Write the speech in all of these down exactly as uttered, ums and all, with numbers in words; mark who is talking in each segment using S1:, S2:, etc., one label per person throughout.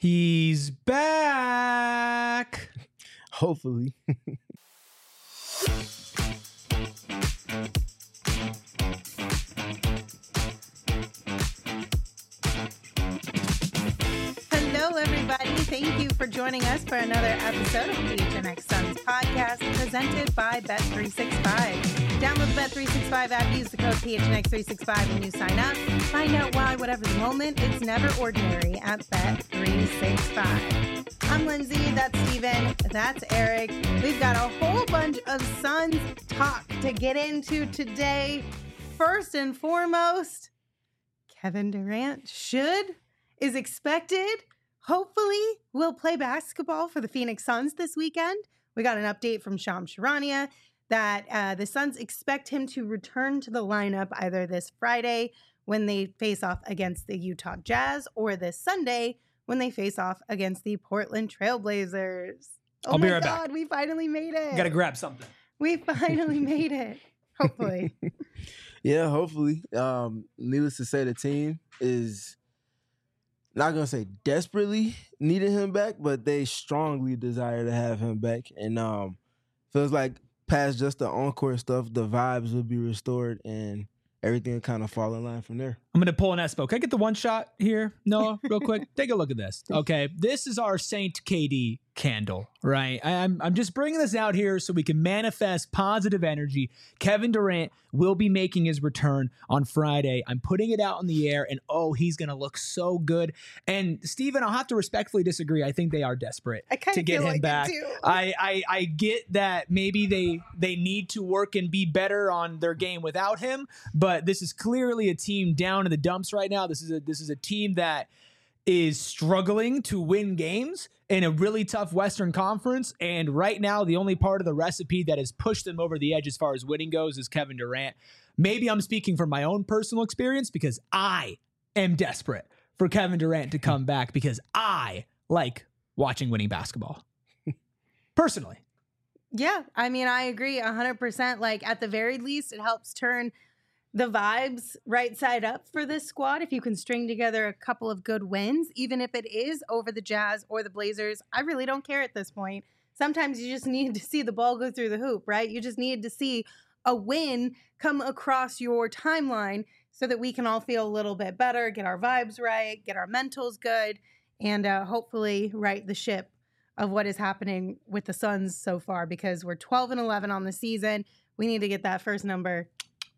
S1: He's back.
S2: Hopefully.
S3: Hello, everybody. Thank you for joining us for another episode of the P H N X Suns podcast presented by Bet three sixty-five. Download the Bet three sixty-five app, use the code P H N X three sixty-five when you sign up. Find out why, whatever the moment, it's never ordinary at Bet three sixty-five. I'm Lindsay, that's Steven, that's Eric. We've got a whole bunch of Suns talk to get into today. First and foremost, Kevin Durant should, is expected, hopefully will play basketball for the Phoenix Suns this weekend. We got an update from Shams Charania that uh, the Suns expect him to return to the lineup either this Friday when they face off against the Utah Jazz or this Sunday when they face off against the Portland Trailblazers. Oh
S1: I'll
S3: my
S1: be right
S3: God,
S1: back.
S3: we finally made it.
S1: Gotta grab something.
S3: We finally made it. Hopefully.
S2: Yeah, hopefully. Um, needless to say, the team is not going to say desperately needing him back, but they strongly desire to have him back. And um, feels like past just the on-court stuff, the vibes will be restored and everything will kind of fall in line from there.
S1: I'm going to pull an Espo. Can I get the one shot here, Noah, real quick? Take a look at this. Okay, this is our Saint K D candle, right? I, I'm, I'm just bringing this out here so we can manifest positive energy. Kevin Durant will be making his return on Friday. I'm putting it out in the air, and oh, he's going to look so good. And Steven, I'll have to respectfully disagree. I think they are desperate
S3: I
S1: to get
S3: feel
S1: him
S3: like
S1: back.
S3: It too.
S1: I, I I get that maybe they they need to work and be better on their game without him, but this is clearly a team down in the dumps right now. This is a this is a team that is struggling to win games in a really tough Western Conference, and right now the only part of the recipe that has pushed them over the edge as far as winning goes is Kevin Durant. Maybe I'm speaking from my own personal experience because I am desperate for Kevin Durant to come back because I like watching winning basketball. Personally.
S3: Yeah, I mean, I agree one hundred percent. Like, at the very least, it helps turn the vibes right side up for this squad. If you can string together a couple of good wins, even if it is over the Jazz or the Blazers, I really don't care at this point. Sometimes you just need to see the ball go through the hoop, right? You just need to see a win come across your timeline so that we can all feel a little bit better, get our vibes right, get our mentals good, and uh, hopefully right the ship of what is happening with the Suns so far, because we're twelve and eleven on the season. We need to get that first number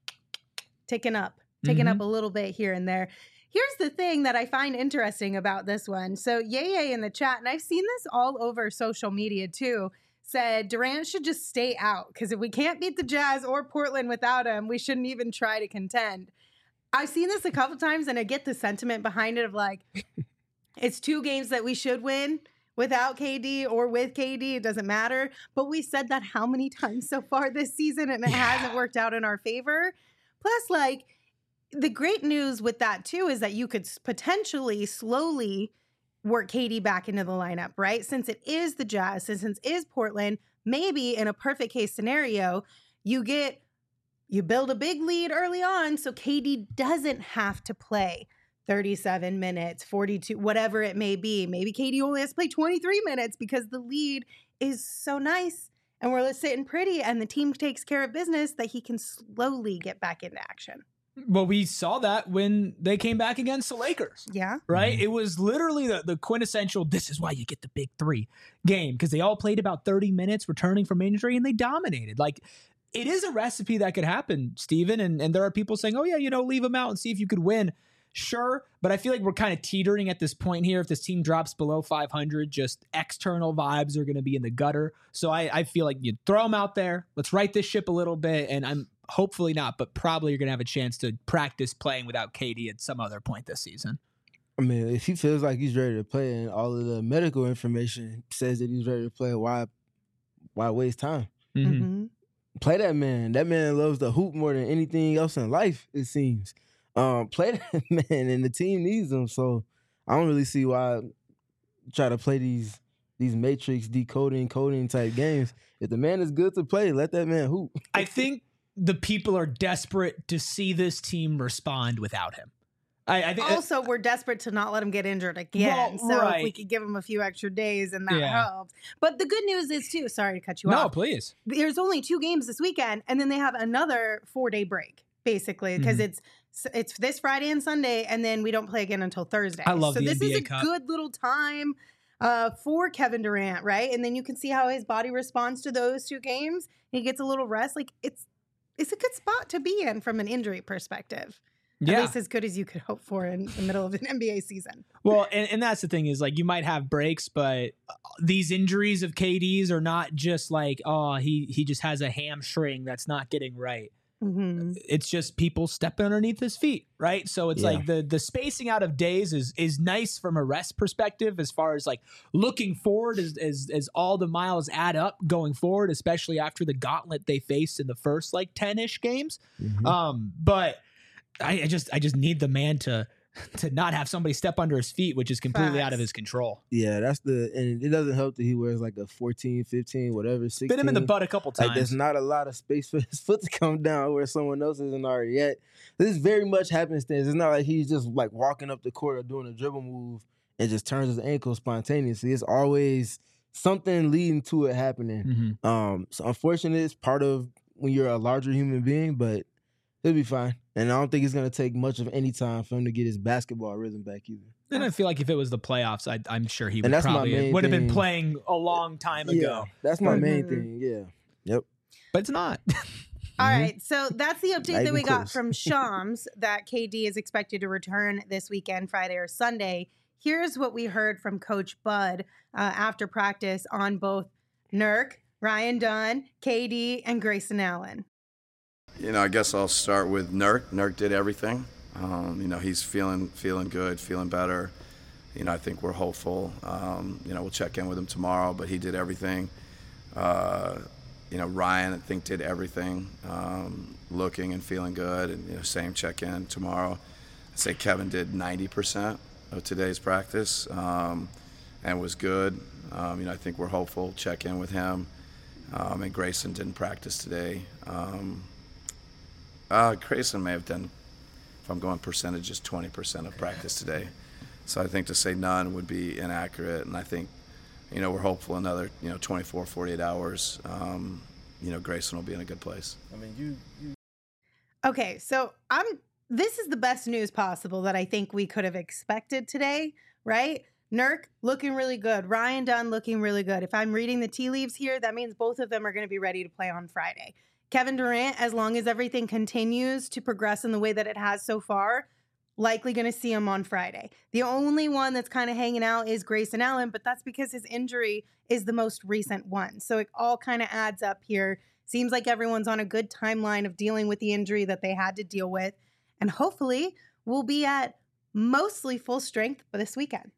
S3: ticking up, ticking
S1: Mm-hmm.
S3: up a little bit here and there. Here's the thing that I find interesting about this one. So Yay Yay in the chat, and I've seen this all over social media too, said Durant should just stay out because if we can't beat the Jazz or Portland without him, we shouldn't even try to contend. I've seen this a couple times and I get the sentiment behind it of like, it's two games that we should win without K D or with K D. It doesn't matter. But we said that how many times so far this season and it
S1: Yeah.
S3: hasn't worked out in our favor. Plus, like, the great news with that, too, is that you could s- potentially slowly work K D back into the lineup, right? Since it is the Jazz, since it is Portland, maybe in a perfect case scenario, you get, you build a big lead early on so K D doesn't have to play thirty-seven minutes, forty-two, whatever it may be. Maybe K D only has to play twenty-three minutes because the lead is so nice and we're sitting pretty and the team takes care of business that he can slowly get back into action.
S1: Well, we saw that when they came back against the Lakers,
S3: Yeah.
S1: right?
S2: Mhm.
S1: It was literally the, the quintessential, this is why you get the big three game, because they all played about thirty minutes returning from injury and they dominated. Like, it is a recipe that could happen, Steven, and, and there are people saying, oh yeah, you know, leave them out and see if you could win. Sure, but I feel like we're kind of teetering at this point here. If this team drops below five hundred, just external vibes are going to be in the gutter. So I, I feel like you throw them out there. Let's right this ship a little bit, and I'm hopefully not, but probably you're going to have a chance to practice playing without K D at some other point this season.
S2: I mean, if he feels like he's ready to play and all of the medical information says that he's ready to play, why why waste time?
S1: Mm-hmm.
S3: Mm-hmm.
S2: Play that man. That man loves the hoop more than anything else in life, it seems. Um, play that man, and the team needs him. So I don't really see why try to play these these matrix decoding, coding type games. If the man is good to play, let that man hoop.
S1: I think the people are desperate to see this team respond without him. I, I think
S3: also, we're desperate to not let him get injured again.
S1: Well,
S3: so
S1: right.
S3: if we could give him a few extra days, and that
S1: Yeah.
S3: helps. But the good news is, too, sorry to cut you
S1: no,
S3: off.
S1: please.
S3: There's only two games this weekend, and then they have another four-day break, basically, because
S1: Mhm.
S3: it's it's this Friday and Sunday, and then we don't play again until Thursday.
S1: I love
S3: so
S1: the
S3: this
S1: N B A
S3: is a
S1: Cup.
S3: good little time uh, for Kevin Durant, right? And then you can see how his body responds to those two games. He gets a little rest. Like it's it's a good spot to be in from an injury perspective. At
S1: Yeah.
S3: least as good as you could hope for in the middle of an N B A season.
S1: Well, and, and that's the thing is like you might have breaks, but these injuries of K D's are not just like, oh, he he just has a hamstring that's not getting right.
S3: Mm-hmm.
S1: It's just people stepping underneath his feet, right? So it's
S2: Yeah.
S1: like the the spacing out of days is is nice from a rest perspective as far as like looking forward as as, as all the miles add up going forward, especially after the gauntlet they faced in the first like ten-ish games.
S2: Mhm.
S1: Um, but I, I just I just need the man to to not have somebody step under his feet, which is completely out of
S3: Facts.
S1: his control.
S2: Yeah, that's the, and it doesn't help that he wears like a fourteen, fifteen, whatever, sixteen.
S1: Bit him in the butt a couple
S2: Like
S1: times.
S2: there's not a lot of space for his foot to come down where someone else isn't already at. This is very much happenstance. It's not like he's just like walking up the court or doing a dribble move and just turns his ankle spontaneously. It's always something leading to it happening.
S1: Mhm.
S2: Um, so unfortunately, it's part of when you're a larger human being, but he'll be fine. And I don't think it's gonna take much of any time for him to get his basketball rhythm back either.
S1: And I feel like if it was the playoffs, I, I'm sure he
S2: And
S1: would
S2: that's my
S1: probably
S2: main
S1: would have been
S2: thing.
S1: playing a long time ago.
S2: Yeah, that's my main
S3: Mhm.
S2: thing. Yeah. Yep.
S1: But it's not.
S3: All
S2: Mhm.
S3: right, so that's the update
S2: Not
S3: that we
S2: even
S3: got
S2: close.
S3: from Shams that K D is expected to return this weekend, Friday or Sunday. Here's what we heard from Coach Bud uh, after practice on both Nurk, Ryan Dunn, K D, and Grayson Allen.
S4: You know, I guess I'll start with Nurk. Nurk did everything. Um, you know, he's feeling feeling good, feeling better. You know, I think we're hopeful. Um, you know, we'll check in with him tomorrow, but he did everything. Uh, you know, Ryan, I think, did everything, um, looking and feeling good, and, you know, same check-in tomorrow. I'd say Kevin did ninety percent of today's practice um, and was good. Um, you know, I think we're hopeful, check in with him. Um, and Grayson didn't practice today. Um, uh, Grayson may have done, if I'm going percentages, twenty percent of practice today. So I think to say none would be inaccurate, and I think, you know, we're hopeful another, you know, twenty-four, forty-eight hours, um, you know, Grayson will be in a good place.
S2: I mean, you, you
S3: Okay, so I'm. This is the best news possible that I think we could have expected today, right? Nurk looking really good. Ryan Dunn looking really good. If I'm reading the tea leaves here, that means both of them are going to be ready to play on Friday. Kevin Durant, as long as everything continues to progress in the way that it has so far, likely going to see him on Friday. The only one that's kind of hanging out is Grayson Allen, but that's because his injury is the most recent one. So it all kind of adds up here. Seems like everyone's on a good timeline of dealing with the injury that they had to deal with. And hopefully we'll be at mostly full strength for this weekend.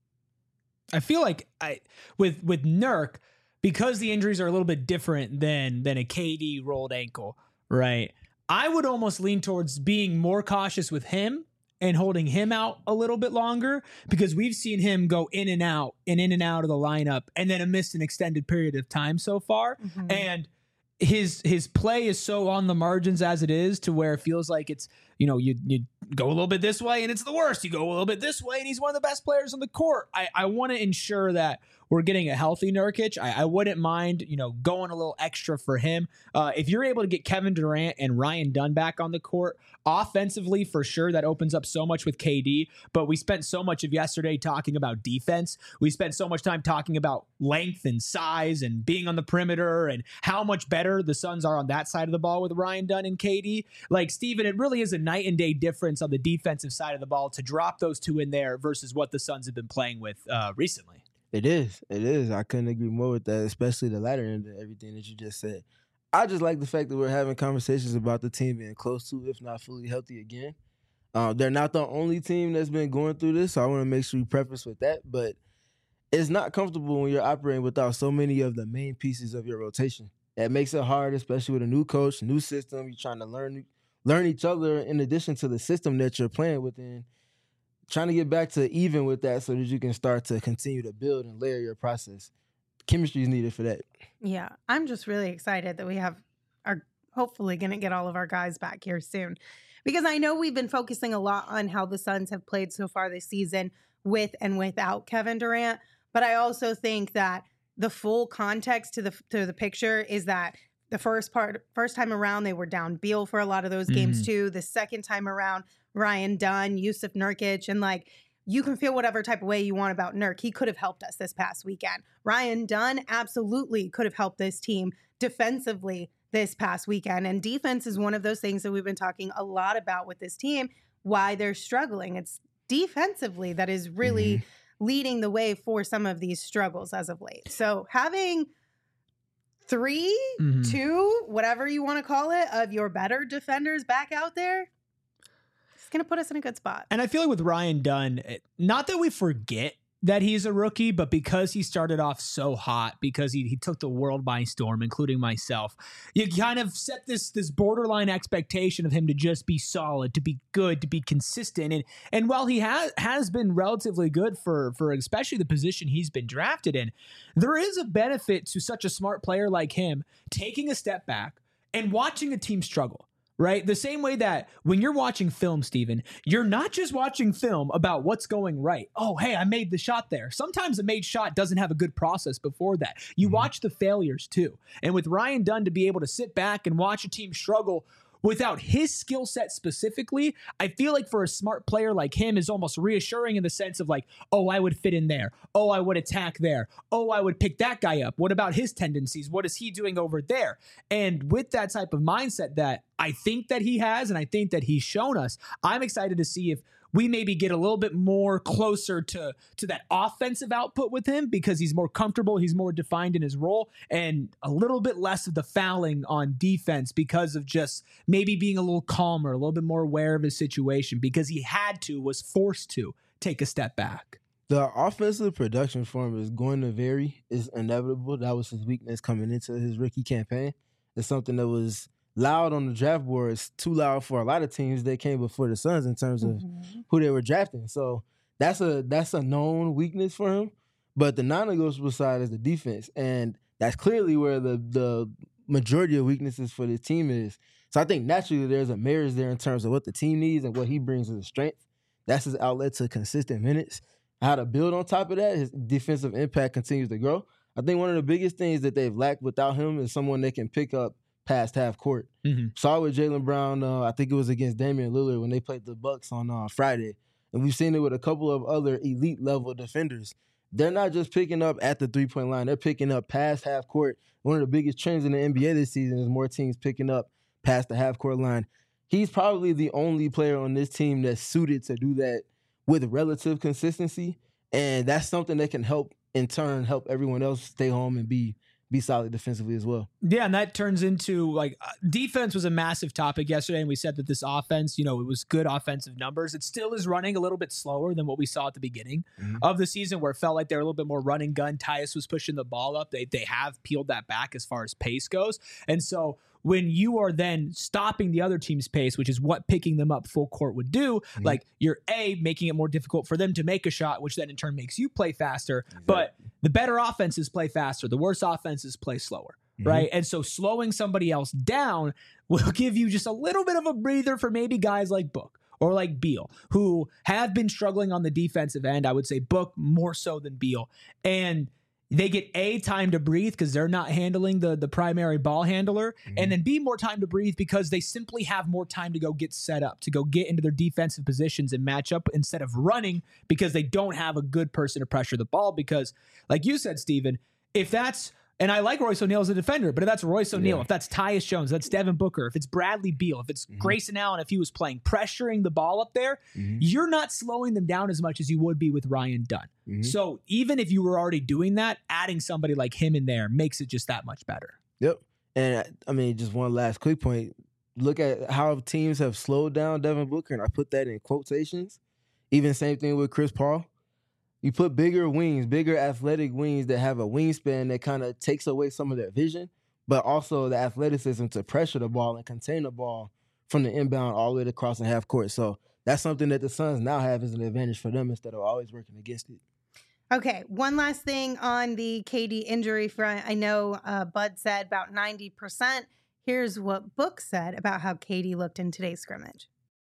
S1: I feel like I with with Nurk, because the injuries are a little bit different than than a K D rolled ankle, right? I would almost lean towards being more cautious with him and holding him out a little bit longer, because we've seen him go in and out and in and out of the lineup and then miss an extended period of time so far.
S3: Mm-hmm.
S1: And his his play is so on the margins as it is, to where it feels like it's, you know, you you go a little bit this way and it's the worst. You go a little bit this way and he's one of the best players on the court. I, I want to ensure that we're getting a healthy Nurkic. I, I wouldn't mind, you know, going a little extra for him. Uh, if you're able to get Kevin Durant and Ryan Dunn back on the court, offensively, for sure, that opens up so much with K D. But we spent so much of yesterday talking about defense. We spent so much time talking about length and size and being on the perimeter and how much better the Suns are on that side of the ball with Ryan Dunn and K D. Like, Steven, it really is a night and day difference on the defensive side of the ball to drop those two in there versus what the Suns have been playing with uh, recently.
S2: It is. It is. I couldn't agree more with that, especially the latter end of everything that you just said. I just like the fact that we're having conversations about the team being close to, if not fully healthy again. Uh, they're not the only team that's been going through this, so I want to make sure we preface with that. But it's not comfortable when you're operating without so many of the main pieces of your rotation. That makes it hard, especially with a new coach, new system. You're trying to learn learn each other in addition to the system that you're playing within. Trying to get back to even with that so that you can start to continue to build and layer your process. Chemistry is needed for that.
S3: Yeah, I'm just really excited that we have are hopefully going to get all of our guys back here soon. Because I know we've been focusing a lot on how the Suns have played so far this season with and without Kevin Durant. But I also think that the full context to the to the picture is that the first part, first time around, they were down Beal for a lot of those mm-hmm. games too. The second time around, Ryan Dunn, Yusuf Nurkic, and like, you can feel whatever type of way you want about Nurk. He could have helped us this past weekend. Ryan Dunn absolutely could have helped this team defensively this past weekend. And defense is one of those things that we've been talking a lot about with this team, why they're struggling. It's defensively that is really mm-hmm. leading the way for some of these struggles as of late. So having three, mm-hmm. two, whatever you want to call it, of your better defenders back out there, going to put us in a good spot.
S1: And I feel like with Ryan Dunn, not that we forget that he's a rookie, but because he started off so hot, because he, he took the world by storm, including myself, you kind of set this this borderline expectation of him to just be solid, to be good, to be consistent. And and while he has has been relatively good for for especially the position he's been drafted in, there is a benefit to such a smart player like him taking a step back and watching a team struggle. Right? The same way that when you're watching film, Steven, you're not just watching film about what's going right. Oh, hey, I made the shot there. Sometimes a made shot doesn't have a good process before that. You mm-hmm. watch the failures too. And with Ryan Dunn to be able to sit back and watch a team struggle without his skill set specifically, I feel like for a smart player like him is almost reassuring in the sense of like, oh, I would fit in there. Oh, I would attack there. Oh, I would pick that guy up. What about his tendencies? What is he doing over there? And with that type of mindset that I think that he has, and I think that he's shown us, I'm excited to see if we maybe get a little bit more closer to, to that offensive output with him because he's more comfortable, he's more defined in his role, and a little bit less of the fouling on defense because of just maybe being a little calmer, a little bit more aware of his situation because he had to, was forced to take a step back.
S2: The offensive production for him is going to vary. It's inevitable. That was his weakness coming into his rookie campaign. It's something that was loud on the draft boards, too loud for a lot of teams that came before the Suns in terms of mm-hmm. who they were drafting. So that's a that's a known weakness for him. But the non-negotiable side is the defense, and that's clearly where the the majority of weaknesses for the team is. So I think naturally there's a marriage there in terms of what the team needs and what he brings as a strength. That's his outlet to consistent minutes. How to build on top of that, his defensive impact continues to grow. I think one of the biggest things that they've lacked without him is someone that can pick up past half court. Mm-hmm. Saw with Jaylen Brown, uh, I think it was against Damian Lillard when they played the Bucks on uh, Friday. And we've seen it with a couple of other elite level defenders. They're not just picking up at the three-point line. They're picking up past half court. One of the biggest trends in the N B A this season is more teams picking up past the half court line. He's probably the only player on this team that's suited to do that with relative consistency. And that's something that can help, in turn, help everyone else stay home and be be solid defensively as well.
S1: Yeah, and that turns into, like, uh, defense was a massive topic yesterday, and we said that this offense, you know, it was good offensive numbers. It still is running a little bit slower than what we saw at the beginning mm-hmm. of the season, where it felt like they were a little bit more running gun. Tyus was pushing the ball up. They they have peeled that back as far as pace goes. And so when you are then stopping the other team's pace, which is what picking them up full court would do, mm-hmm. like, you're A, making it more difficult for them to make a shot, which then in turn makes you play faster. Exactly. But the better offenses play faster. The worse offenses play slower, mm-hmm. right? And so slowing somebody else down will give you just a little bit of a breather for maybe guys like Book or like Beal, who have been struggling on the defensive end. I would say Book more so than Beal. And they get A, time to breathe because they're not handling the, the primary ball handler, mm-hmm. and then B, more time to breathe because they simply have more time to go get set up, to go get into their defensive positions and match up instead of running because they don't have a good person to pressure the ball. Because, like you said, Steven, if that's, and I like Royce O'Neal as a defender, but if that's Royce O'Neal, yeah. if that's Tyus Jones, that's Devin Booker, if it's Bradley Beal, if it's mm-hmm. Grayson Allen, if he was playing, pressuring the ball up there, mm-hmm. you're not slowing them down as much as you would be with Ryan Dunn. Mm-hmm. So even if you were already doing that, adding somebody like him in there makes it just that much better.
S2: Yep. And I mean, just one last quick point. Look at how teams have slowed down Devin Booker, and I put that in quotations. Even same thing with Chris Paul. You put bigger wings, bigger athletic wings that have a wingspan that kind of takes away some of their vision, but also the athleticism to pressure the ball and contain the ball from the inbound all the way across the half court. So that's something that the Suns now have as an advantage for them instead of always working against it.
S3: Okay, one last thing on the K D injury front. I know uh, Bud said about ninety percent. Here's what Book said about how K D looked in today's scrimmage.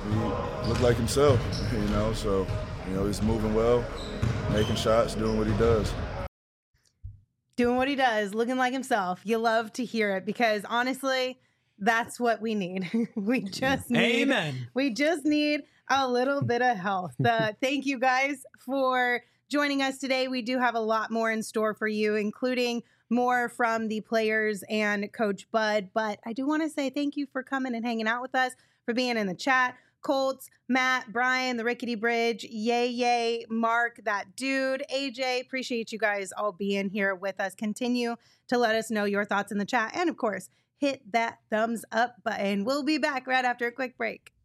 S5: he looked like himself, you know. So, you know, he's moving well, making shots, doing what he does.
S3: Doing what he does, looking like himself. You love to hear it because honestly, that's what we need. we just need,
S1: Amen.
S3: We just need a little bit of health. Uh, thank you guys for joining us today. We do have a lot more in store for you, including more from the players and Coach Bud. But I do want to say thank you for coming and hanging out with us, for being in the chat. Colts, Matt, Brian, the Rickety Bridge, Yay Yay, Mark, that dude, A J, appreciate you guys all being here with us. Continue to let us know your thoughts in the chat. And of course, hit that thumbs up button. We'll be back right after a quick break.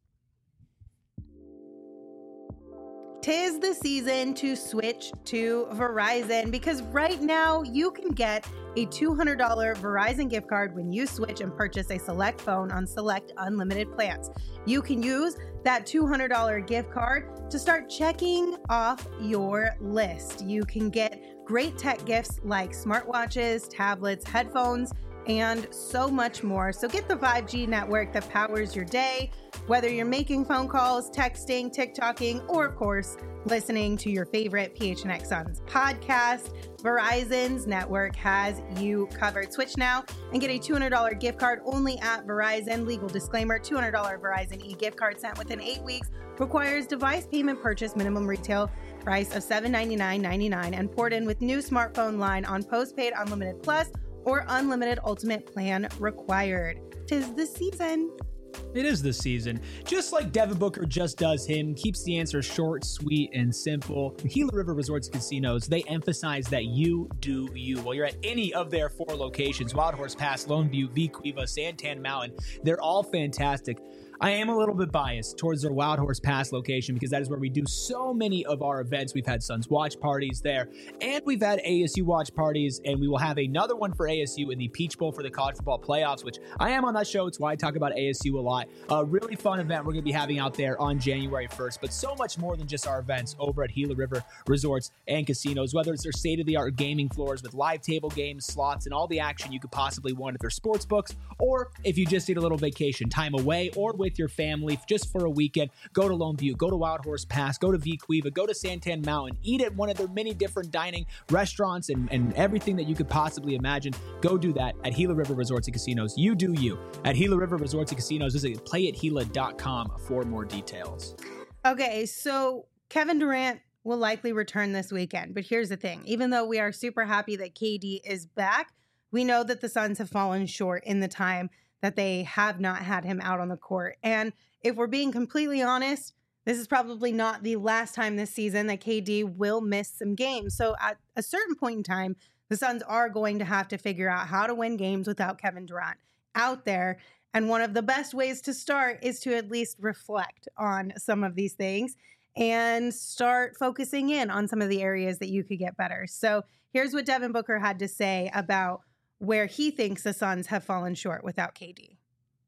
S3: 'Tis the season to switch to Verizon because right now you can get a two hundred dollars Verizon gift card when you switch and purchase a select phone on select unlimited plans. You can use that two hundred dollars gift card to start checking off your list. You can get great tech gifts like smartwatches, tablets, headphones, and so much more. So get the five G network that powers your day, whether you're making phone calls, texting, TikToking, or of course, listening to your favorite P H N X Suns podcast. Verizon's network has you covered. Switch now and get a two hundred dollars gift card only at Verizon. Legal disclaimer, two hundred dollars Verizon e-gift card sent within eight weeks requires device payment purchase minimum retail price of seven hundred ninety-nine dollars and ninety-nine cents and port in with new smartphone line on postpaid unlimited plus or unlimited ultimate plan required. 'Tis the season.
S1: It is the season. Just like Devin Booker just does him, keeps the answer short, sweet, and simple. Gila River Resorts and Casinos, they emphasize that you do you. While you're at any of their four locations, Wild Horse Pass, Lone View, V Cueva, Santan Mountain, they're all fantastic. I am a little bit biased towards their Wild Horse Pass location because that is where we do so many of our events. We've had Suns watch parties there, and we've had A S U watch parties, and we will have another one for A S U in the Peach Bowl for the college football playoffs, which I am on that show. It's why I talk about A S U a lot. A really fun event we're going to be having out there on January first, but so much more than just our events over at Gila River Resorts and Casinos, whether it's their state-of-the-art gaming floors with live table games, slots, and all the action you could possibly want at their sports books, or if you just need a little vacation time away or with your family just for a weekend, go to Lone View, go to Wild Horse Pass, go to V Cueva, go to Santan Mountain, eat at one of their many different dining restaurants and, and everything that you could possibly imagine. Go do that at Gila River Resorts and Casinos. You do you. At Gila River Resorts and Casinos, visit play at gila dot com for more details.
S3: Okay, so Kevin Durant will likely return this weekend, but here's the thing. Even though we are super happy that K D is back, we know that the Suns have fallen short in the time that they have not had him out on the court. And if we're being completely honest, this is probably not the last time this season that K D will miss some games. So at a certain point in time, the Suns are going to have to figure out how to win games without Kevin Durant out there. And one of the best ways to start is to at least reflect on some of these things and start focusing in on some of the areas that you could get better. So here's what Devin Booker had to say about where he thinks the Suns have fallen short without K D.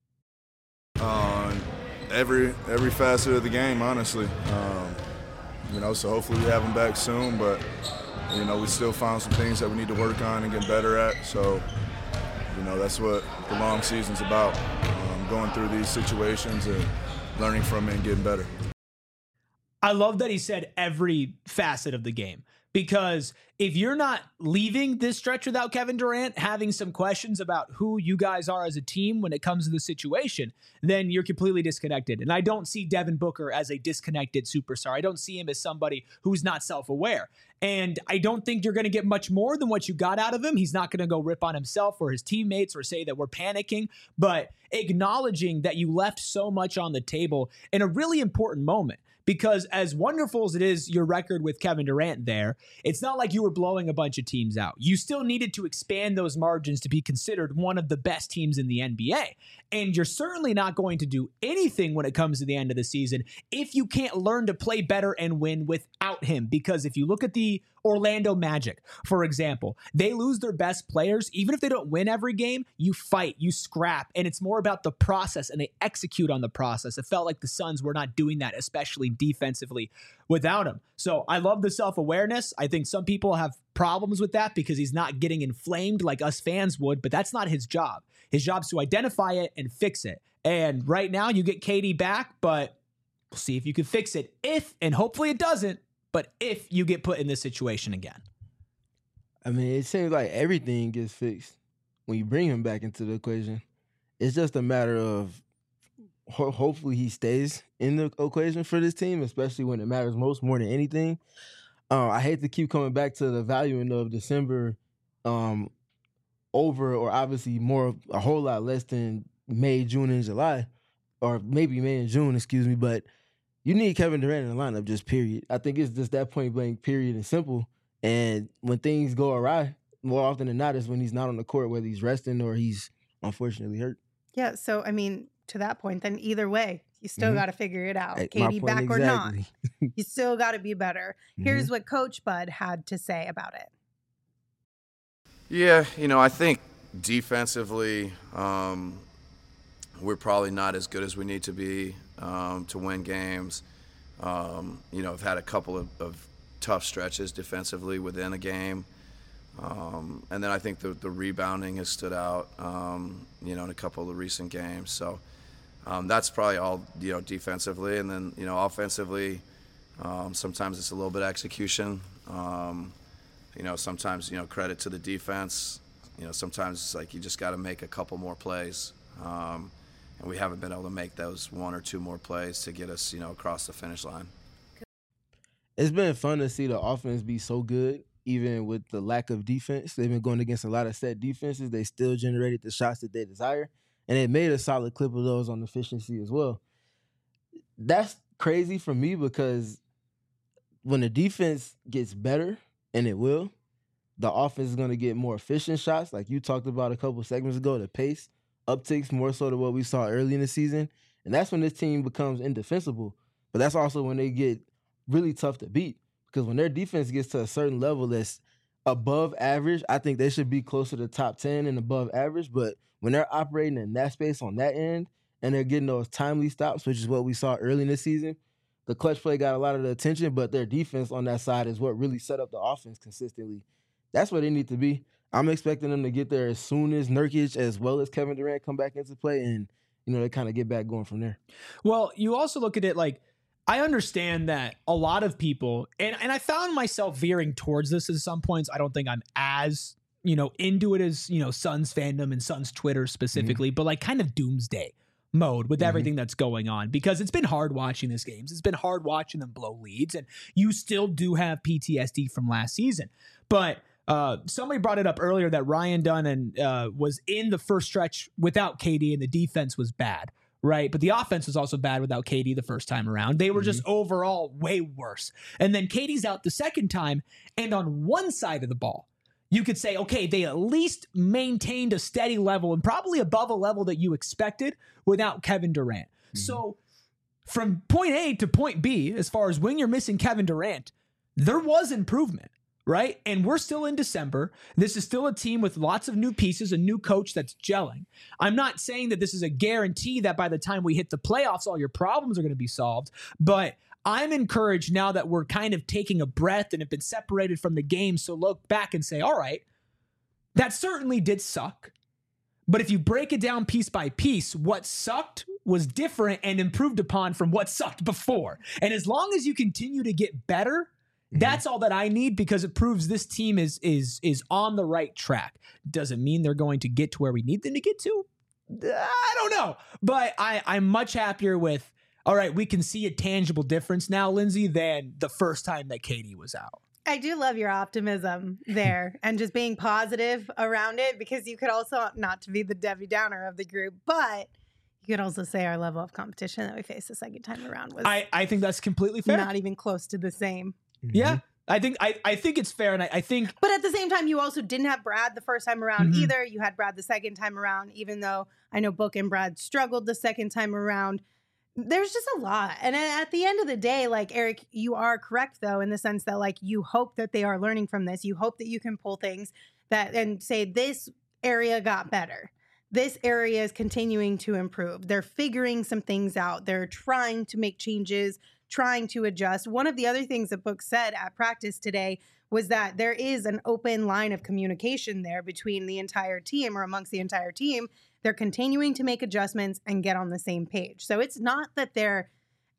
S5: Um, every every facet of the game, honestly. Um, you know, so hopefully we have him back soon, but, you know, we still found some things that we need to work on and get better at. So, you know, that's what the long season's about, um, going through these situations and learning from it and getting better.
S1: I love that he said every facet of the game, because if you're not leaving this stretch without Kevin Durant, having some questions about who you guys are as a team when it comes to the situation, then you're completely disconnected. And I don't see Devin Booker as a disconnected superstar. I don't see him as somebody who's not self-aware. And I don't think you're going to get much more than what you got out of him. He's not going to go rip on himself or his teammates or say that we're panicking, but acknowledging that you left so much on the table in a really important moment. Because as wonderful as it is, your record with Kevin Durant there, it's not like you were blowing a bunch of teams out. You still needed to expand those margins to be considered one of the best teams in the N B A. And you're certainly not going to do anything when it comes to the end of the season if you can't learn to play better and win without him. Because if you look at the Orlando Magic, for example, they lose their best players. Even if they don't win every game, you fight, you scrap, and it's more about the process, and they execute on the process. It felt like the Suns were not doing that, especially defensively, without him. So I love the self-awareness. I think some people have problems with that because he's not getting inflamed like us fans would, but that's not his job. His job is to identify it and fix it. And right now you get K D back, but We'll see if you can fix it. If, and hopefully it doesn't, but if you get put in this situation again.
S2: I mean, it seems like everything gets fixed when you bring him back into the equation. It's just a matter of ho- hopefully he stays in the equation for this team, especially when it matters most, more than anything. Uh, I hate to keep coming back to the valuing of December um, over, or obviously more, a whole lot less than May, June, and July, or maybe May and June, excuse me. But you need Kevin Durant in the lineup, just period. I think it's just that point blank, period, and simple. And when things go awry, more often than not, is when he's not on the court, whether he's resting or he's unfortunately hurt.
S3: Yeah, so, I mean, to that point, then either way, you still
S2: mm-hmm.
S3: got to figure it out.
S2: Hey,
S3: K D back
S2: exactly.
S3: or not, you still got to be better.
S2: Mm-hmm.
S3: Here's what Coach Bud had to say about it.
S4: Yeah, you know, I think defensively, um, we're probably not as good as we need to be um, to win games. Um, you know, I've had a couple of, of tough stretches defensively within a game. Um, and then I think the, the rebounding has stood out, um, you know, in a couple of the recent games. So um, that's probably all, you know, defensively. And then, you know, offensively, um, sometimes it's a little bit of execution. Um, you know, sometimes, you know, credit to the defense. You know, sometimes it's like you just got to make a couple more plays. Um, and we haven't been able to make those one or two more plays to get us, you know, across the finish line.
S2: It's been fun to see the offense be so good, even with the lack of defense. They've been going against a lot of set defenses. They still generated the shots that they desire, and it made a solid clip of those on efficiency as well. That's crazy for me because when the defense gets better, and it will, the offense is going to get more efficient shots, like you talked about a couple segments ago. The pace upticks more so than what we saw early in the season, and that's when this team becomes indefensible. But that's also when they get really tough to beat, because when their defense gets to a certain level that's above average, I think they should be closer to top ten and above average. But when they're operating in that space on that end and they're getting those timely stops, which is what we saw early in the season, the clutch play got a lot of the attention, but their defense on that side is what really set up the offense consistently. That's where they need to be. I'm expecting them to get there as soon as Nurkic as well as Kevin Durant come back into play, and you know they kind of get back going from there.
S1: Well, you also look at it like, I understand that a lot of people, and, and I found myself veering towards this at some points. I don't think I'm as, you know, into it as, you know, Suns fandom and Suns Twitter specifically, mm-hmm. but like kind of doomsday mode with mm-hmm. everything that's going on, because it's been hard watching these games. It's been hard watching them blow leads, and you still do have P T S D from last season. But uh, somebody brought it up earlier that Ryan Dunn and, uh, was in the first stretch without K D and the defense was bad. Right. But the offense was also bad without K D the first time around. They were mm-hmm. just overall way worse. And then K D's out the second time. And on one side of the ball, you could say, OK, they at least maintained a steady level and probably above a level that you expected without Kevin Durant. Mm-hmm. So from point A to point B, as far as when you're missing Kevin Durant, there was improvement. Right. And we're still in December. This is still a team with lots of new pieces, a new coach that's gelling. I'm not saying that this is a guarantee that by the time we hit the playoffs, all your problems are going to be solved. But I'm encouraged now that we're kind of taking a breath and have been separated from the game. So look back and say, all right, that certainly did suck. But if you break it down piece by piece, what sucked was different and improved upon from what sucked before. And as long as you continue to get better, that's all that I need, because it proves this team is is is on the right track. Does it mean they're going to get to where we need them to get to? I don't know. But I, I'm much happier with, all right, we can see a tangible difference now, Lindsay, than the first time that K D was out.
S3: I do love your optimism there and just being positive around it, because you could also, not to be the Debbie Downer of the group, but you could also say our level of competition that we faced the second time around was
S1: I, I think that's completely fair.
S3: Not even close to the same.
S1: Mm-hmm. Yeah, I think I, I think it's fair, and I, I think.
S3: But at the same time, you also didn't have Brad the first time around
S1: mm-hmm.
S3: either. You had Brad the second time around, even though I know Book and Brad struggled the second time around. There's just a lot, and at the end of the day, like Eric, you are correct though, in the sense that like you hope that they are learning from this. You hope that you can pull things that and say this area got better. This area is continuing to improve. They're figuring some things out. They're trying to make changes, trying to adjust. One of the other things that Book said at practice today was that there is an open line of communication there between the entire team, or amongst the entire team. They're continuing to make adjustments and get on the same page. So it's not that they're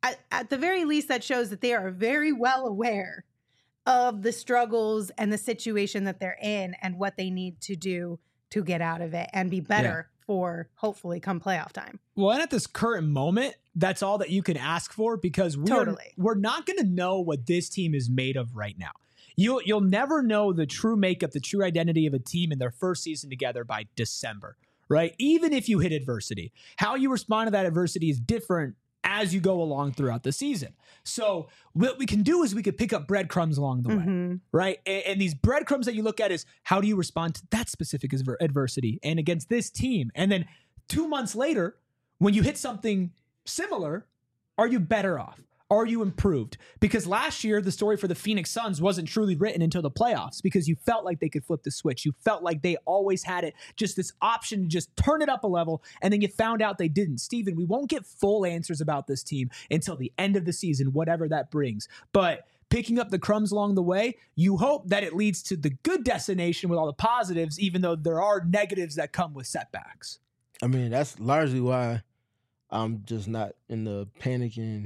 S3: at, at the very least, that shows that they are very well aware of the struggles and the situation that they're in and what they need to do to get out of it and be better yeah. for hopefully come playoff time.
S1: Well, and at this current moment, that's all that you can ask for, because we
S3: totally.
S1: are, we're not going to know what this team is made of right now. You'll, you'll never know the true makeup, the true identity of a team in their first season together by December, right? Even if you hit adversity, how you respond to that adversity is different as you go along throughout the season. So what we can do is we could pick up breadcrumbs along the way, mm-hmm. right? And, and these breadcrumbs that you look at is, how do you respond to that specific adversity and against this team? And then two months later, when you hit something similar, are you better off? Are you improved? Because last year, the story for the Phoenix Suns wasn't truly written until the playoffs, because you felt like they could flip the switch. You felt like they always had it, just this option to just turn it up a level, and then you found out they didn't. Steven, we won't get full answers about this team until the end of the season, whatever that brings. But picking up the crumbs along the way, you hope that it leads to the good destination with all the positives, even though there are negatives that come with setbacks.
S2: I mean, that's largely why I'm just not in the panicking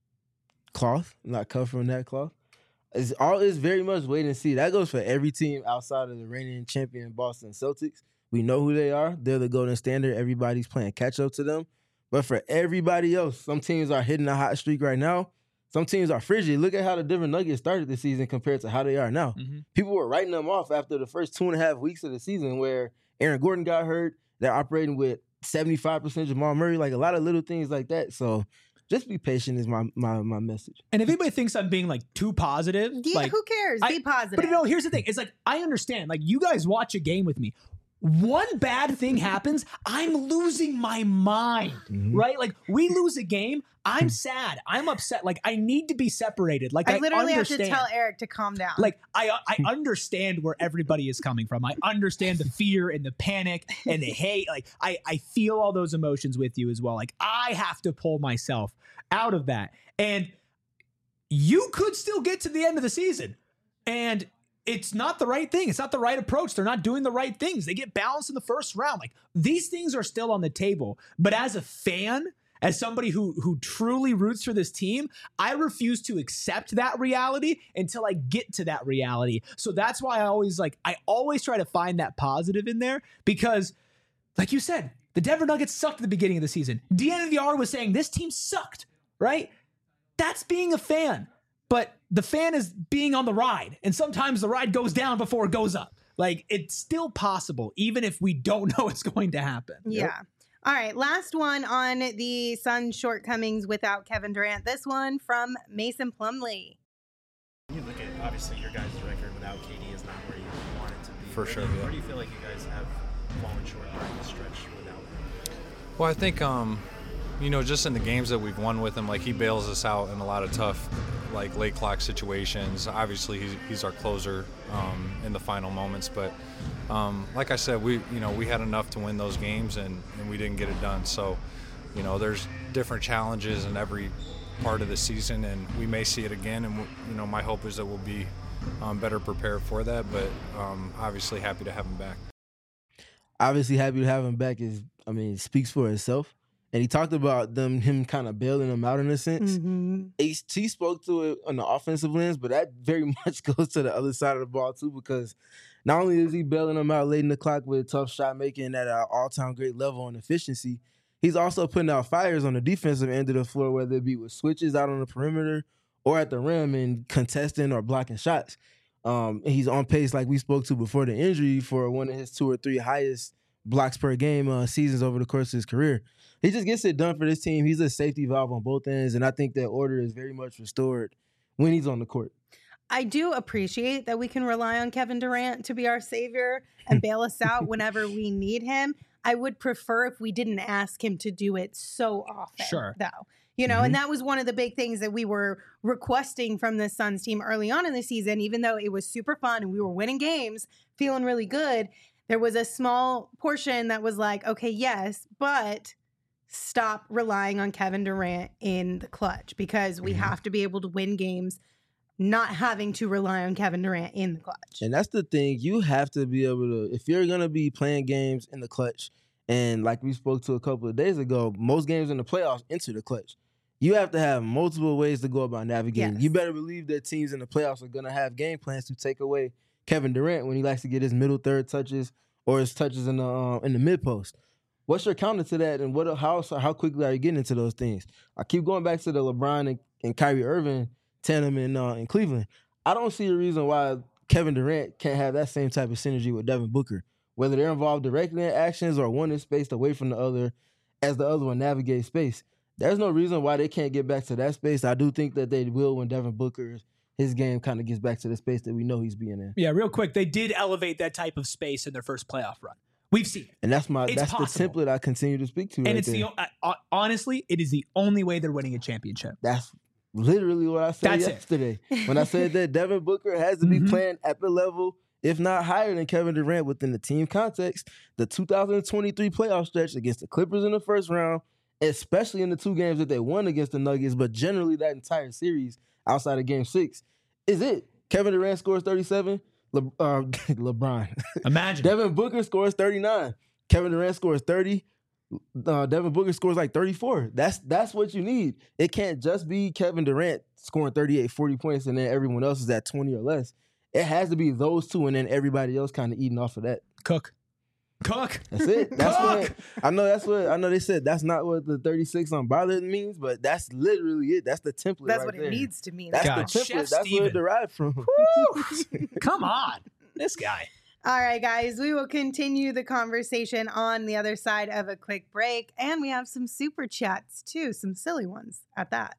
S2: cloth, not covering that cloth. It's all is very much wait and see. That goes for every team outside of the reigning champion Boston Celtics. We know who they are. They're the golden standard. Everybody's playing catch up to them. But for everybody else, some teams are hitting a hot streak right now. Some teams are frigid. Look at how the Denver Nuggets started the season compared to how they are now. Mm-hmm. People were writing them off after the first two and a half weeks of the season, where Aaron Gordon got hurt. They're operating with seventy-five percent Jamal Murray, like a lot of little things like that. So just be patient is my my my message.
S1: And if anybody thinks I'm being like too positive,
S3: yeah,
S1: like,
S3: who cares?
S1: I,
S3: be positive.
S1: But you know, here's the thing. It's like, I understand. Like, you guys watch a game with me. One bad thing happens, I'm losing my mind, mm-hmm. right? Like, we lose a game, I'm sad, I'm upset. Like, I need to be separated. Like, I,
S3: I literally
S1: understand.
S3: have to tell Eric to calm down.
S1: Like, I I understand where everybody is coming from. I understand the fear and the panic and the hate. Like, I, I feel all those emotions with you as well. Like, I have to pull myself out of that. And you could still get to the end of the season, and it's not the right thing. It's not the right approach. They're not doing the right things. They get bounced in the first round. Like, these things are still on the table. But as a fan, as somebody who who truly roots for this team, I refuse to accept that reality until I get to that reality. So that's why I always like, I always try to find that positive in there, because like you said, the Denver Nuggets sucked at the beginning of the season. D N V R was saying this team sucked, right? That's being a fan. But the fan is being on the ride, and sometimes the ride goes down before it goes up. Like, it's still possible, even if we don't know it's going to happen.
S3: Yeah. Yep. All right, last one on the Suns' shortcomings without Kevin Durant. This one from Mason Plumlee.
S6: You look at, obviously, your guys' record without K D is not where you want it to be.
S7: For
S6: where
S7: sure.
S6: Do you,
S7: yeah.
S6: Where do you feel like you guys have fallen short during the stretch without him?
S7: Well, I think, um, you know, just in the games that we've won with him, like, he bails us out in a lot of tough, like, late clock situations. Obviously, he's, he's our closer um, in the final moments. But, um, like I said, we, you know, we had enough to win those games, and, and we didn't get it done. So, you know, there's different challenges in every part of the season, and we may see it again. And, you know, my hope is that we'll be um, better prepared for that. But um, obviously happy to have him back.
S2: Obviously happy to have him back is, I mean, it speaks for itself. And he talked about them, him kind of bailing them out in a sense.
S3: Mm-hmm.
S2: He, he spoke to it on the offensive lens, but that very much goes to the other side of the ball too, because not only is he bailing them out late in the clock with tough shot making at an all-time great level on efficiency, he's also putting out fires on the defensive end of the floor, whether it be with switches out on the perimeter or at the rim and contesting or blocking shots. Um, and he's on pace, like we spoke to before the injury, for one of his two or three highest blocks per game uh, seasons over the course of his career. He just gets it done for this team. He's a safety valve on both ends, and I think that order is very much restored when he's on the court.
S3: I do appreciate that we can rely on Kevin Durant to be our savior and bail us out whenever we need him. I would prefer if we didn't ask him to do it so often,
S1: sure.
S3: though. You know,
S1: mm-hmm.
S3: and that was one of the big things that we were requesting from the Suns team early on in the season, even though it was super fun and we were winning games, feeling really good. There was a small portion that was like, okay, yes, but stop relying on Kevin Durant in the clutch, because we mm-hmm. have to be able to win games not having to rely on Kevin Durant in the clutch.
S2: And that's the thing. You have to be able to, if you're going to be playing games in the clutch, and like we spoke to a couple of days ago, most games in the playoffs enter the clutch. You have to have multiple ways to go about navigating.
S3: Yes.
S2: You better believe that teams in the playoffs are going to have game plans to take away Kevin Durant when he likes to get his middle third touches or his touches in the uh, in the mid post. What's your counter to that, and what how how quickly are you getting into those things? I keep going back to the LeBron and, and Kyrie Irving tandem in uh, in Cleveland. I don't see a reason why Kevin Durant can't have that same type of synergy with Devin Booker, whether they're involved directly in actions or one is spaced away from the other as the other one navigates space. There's no reason why they can't get back to that space. I do think that they will when Devin Booker, his game kind of gets back to the space that we know he's being in.
S1: Yeah, real quick, they did elevate that type of space in their first playoff run. We've seen it.
S2: And that's my
S1: It's
S2: that's
S1: possible.
S2: the template I continue to speak to.
S1: And
S2: right
S1: it's
S2: there.
S1: the uh, honestly, it is the only way they're winning a championship.
S2: That's literally what I said
S1: That's it.
S2: yesterday when I said that Devin Booker has to be
S1: Mhm.
S2: playing at the level, if not higher than Kevin Durant within the team context. The two thousand twenty-three playoff stretch against the Clippers in the first round, especially in the two games that they won against the Nuggets, but generally that entire series outside of game six, is it. Kevin Durant scores thirty-seven, Le, uh, LeBron.
S1: Imagine.
S2: Devin Booker scores thirty-nine. Kevin Durant scores thirty. Uh, Devin Booker scores like thirty-four. That's that's what you need. It can't just be Kevin Durant scoring thirty-eight, forty points and then everyone else is at twenty or less. It has to be those two and then everybody else kind of eating off of that.
S1: Cook. Cook.
S2: That's it. That's
S1: Cook.
S2: what I know. That's what I know. They said that's not what the thirty-six unbothered means, but that's literally it. That's the template.
S3: That's
S2: right
S3: what
S2: there.
S3: it needs to mean.
S2: That's
S1: God.
S2: the template.
S1: Chef
S2: that's where
S1: Steven.
S2: it derived from.
S1: Woo! Come on. This guy.
S3: All right, guys, we will continue the conversation on the other side of a quick break. And we have some super chats, too, some silly ones at that.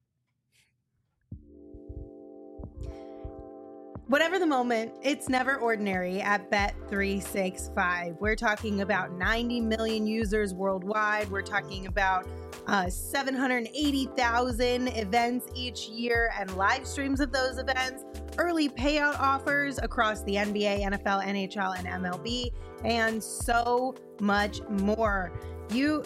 S3: Whatever the moment, it's never ordinary at Bet three sixty-five. We're talking about ninety million users worldwide. We're talking about uh, seven hundred eighty thousand events each year and live streams of those events, early payout offers across the N B A, N F L, N H L, and M L B, and so much more. You,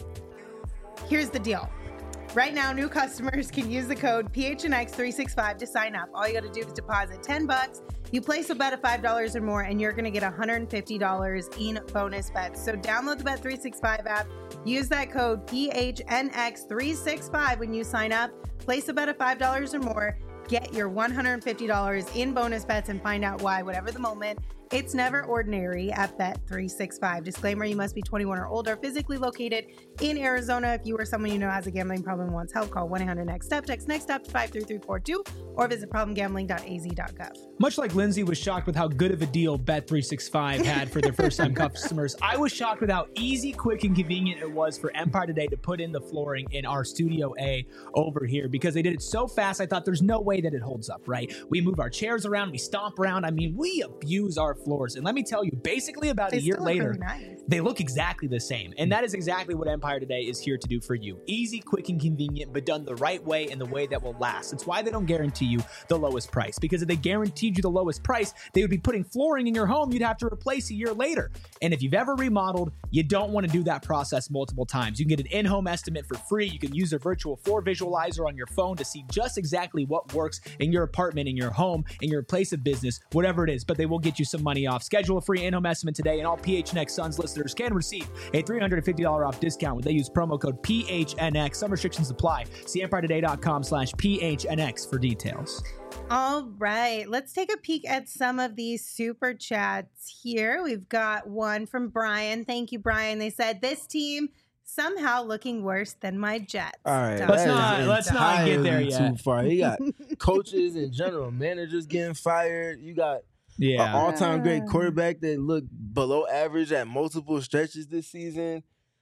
S3: here's the deal. Right now, new customers can use the code P H N X three sixty-five to sign up. All you got to do is deposit ten bucks. You place a bet of five dollars or more, and you're going to get one hundred fifty dollars in bonus bets. So download the Bet three sixty-five app. Use that code P H N X three sixty-five when you sign up. Place a bet of five dollars or more. Get your one hundred fifty dollars in bonus bets and find out why, whatever the moment. It's never ordinary at Bet three sixty-five. Disclaimer, you must be twenty-one or older, physically located in Arizona. If you or someone you know has a gambling problem and wants help, call one eight hundred next step. Text next step to five three three four two or visit problem gambling dot a z dot gov.
S1: Much like Lindsay was shocked with how good of a deal Bet three sixty-five had for their first-time customers, I was shocked with how easy, quick, and convenient it was for Empire Today to put in the flooring in our Studio A over here because they did it so fast, I thought there's no way that it holds up, right? We move our chairs around, we stomp around. I mean, we abuse our floors. And let me tell you, basically about
S3: They
S1: a year
S3: still look
S1: later,
S3: really nice.
S1: they look exactly the same. And that is exactly what Empire Today is here to do for you. Easy, quick, and convenient, but done the right way and the way that will last. It's why they don't guarantee you the lowest price. Because if they guaranteed you the lowest price, they would be putting flooring in your home you'd have to replace a year later. And if you've ever remodeled, you don't want to do that process multiple times. You can get an in-home estimate for free. You can use their virtual floor visualizer on your phone to see just exactly what works in your apartment, in your home, in your place of business, whatever it is. But they will get you some money off. Schedule a free in-home estimate today, and all P H N X Suns listeners can receive a three hundred fifty dollars off discount when they use promo code P H N X. Some restrictions apply. See empire today dot com slash P H N X for details.
S3: All right, let's take a peek at some of these super chats here. We've got one from Brian. Thank you, Brian. They said, this team somehow looking worse than my Jets.
S2: All right,
S3: Dun,
S1: Let's
S2: that
S1: not-
S2: is
S1: let's not get there
S2: entirely
S1: yet.
S2: Too far. You got coaches and general managers getting fired. You got
S1: Yeah.
S2: an all-time great quarterback that looked below average at multiple stretches this season.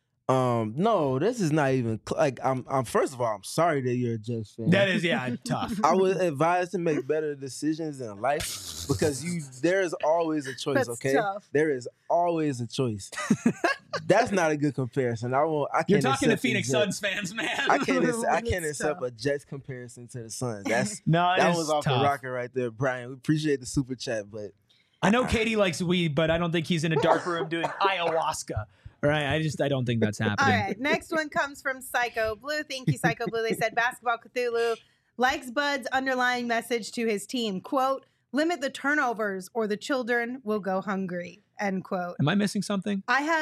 S2: Um, no, this is not even cl- like I'm. I'm first of all, I'm sorry that you're a Jets fan.
S1: That is, yeah, tough.
S2: I would advise to make better decisions in life because you there is always a choice.
S3: That's
S2: okay,
S3: tough.
S2: there is always a choice. That's not a good comparison. I won't. I can't
S1: You're talking to
S2: accept the
S1: Phoenix
S2: Jets-
S1: Suns fans, man.
S2: I can't. ac- I can't
S3: It's
S2: accept
S3: tough.
S2: a Jets comparison to the Suns. That's
S1: no,
S2: that
S1: it's
S2: was off
S1: tough.
S2: the rocker right there, Brian. We appreciate the super chat, but
S1: I know Katie likes weed, but I don't think he's in a dark room doing ayahuasca. Right? I just I don't think that's
S3: All
S1: happening.
S3: right, next one comes from Psycho Blue. Thank you, Psycho Blue. They said Basketball Cthulhu likes Bud's underlying message to his team. Quote, limit the turnovers or the children will go hungry. End quote.
S1: Am I missing something?
S3: I have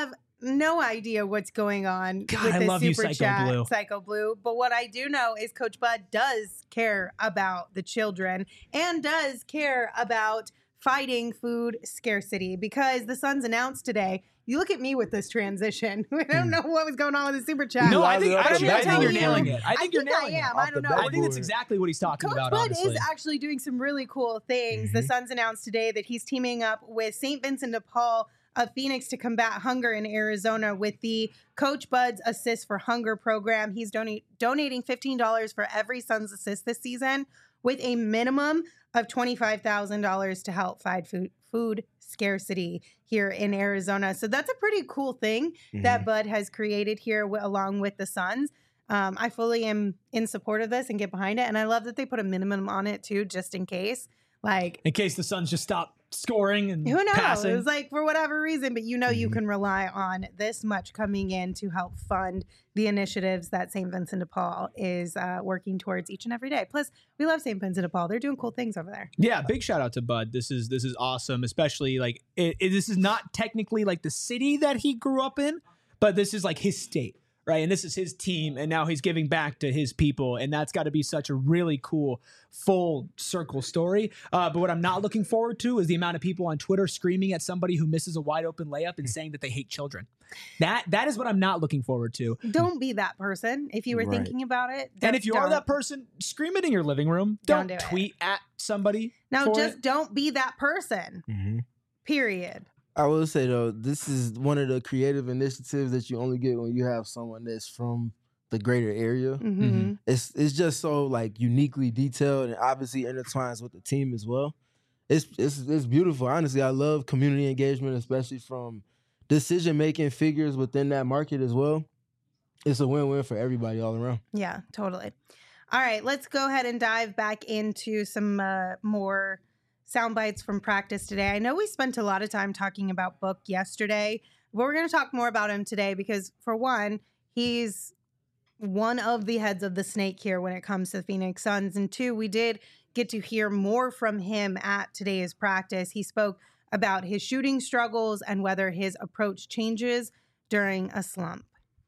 S3: no idea what's going on
S1: God,
S3: with
S1: I
S3: this
S1: love you,
S3: super
S1: Psycho
S3: chat,
S1: Blue.
S3: Psycho Blue. But what I do know is Coach Bud does care about the children and does care about fighting food scarcity, because the Suns announced today. You look at me with this transition. I don't know what was going on with the super chat.
S1: No, I think
S2: Off the
S1: actually,
S2: bat
S1: I think you're
S3: board.
S1: nailing it. I
S3: I
S1: think you're
S3: think I
S1: nailing it.
S3: am.
S2: Off
S3: I don't
S2: the
S3: know.
S1: I think that's
S2: backboard.
S1: exactly what he's talking
S3: Coach
S1: about,
S3: Bud
S1: honestly.
S3: is actually doing some really cool things. The
S2: Mhm.
S3: Suns announced today that he's teaming up with Saint Vincent de Paul of Phoenix to combat hunger in Arizona with the Coach Bud's Assist for Hunger program. He's donate, donating fifteen dollars for every Suns assist this season, with a minimum of twenty-five thousand dollars to help fight food, food scarcity here in Arizona. So that's a pretty cool thing that Bud has created here w- along with the Suns. Um, I fully am in support of this and get behind it. And I love that they put a minimum on it too, just in case. Like,
S1: In case the Suns just stop scoring and
S3: who knows?
S1: passing.
S3: It's like for whatever reason, but you know you
S2: Mhm.
S3: can rely on this much coming in to help fund the initiatives that Saint Vincent de Paul is uh, working towards each and every day. Plus, we love Saint Vincent de Paul. They're doing cool things over there.
S1: Yeah, big shout out to Bud. This is this is awesome, especially like it, it, this is not technically like the city that he grew up in, but this is like his state, right? And this is his team, and now he's giving back to his people, and that's got to be such a really cool full circle story. Uh, but what I'm not looking forward to is the amount of people on Twitter screaming at somebody who misses a wide open layup and saying that they hate children. That that is what I'm not looking forward to.
S3: Don't be that person if you were
S2: Right.
S3: thinking about it.
S1: And
S3: Don't-
S1: if you are
S3: don't.
S1: that person, scream it in your living room.
S3: Don't
S1: Don't,
S3: do it.
S1: tweet at somebody.
S3: now,
S1: for
S3: just
S1: it.
S3: don't be that person.
S2: Mhm.
S3: Period.
S2: I will say though, this is one of the creative initiatives that you only get when you have someone that's from the greater area.
S3: hmm
S1: Mhm.
S2: It's it's just so like uniquely detailed and obviously intertwines with the team as well. It's it's it's beautiful. Honestly, I love community engagement, especially from decision making figures within that market as well. It's a win win for everybody all around.
S3: Yeah, totally. All right, let's go ahead and dive back into some uh, more sound bites from practice today. I know we spent a lot of time talking about Book yesterday, but we're going to talk more about him today because, for one, he's one of the heads of the snake here when it comes to the Phoenix Suns. And two, we did get to hear more from him at today's practice. He spoke about his shooting struggles and whether his approach changes during a slump.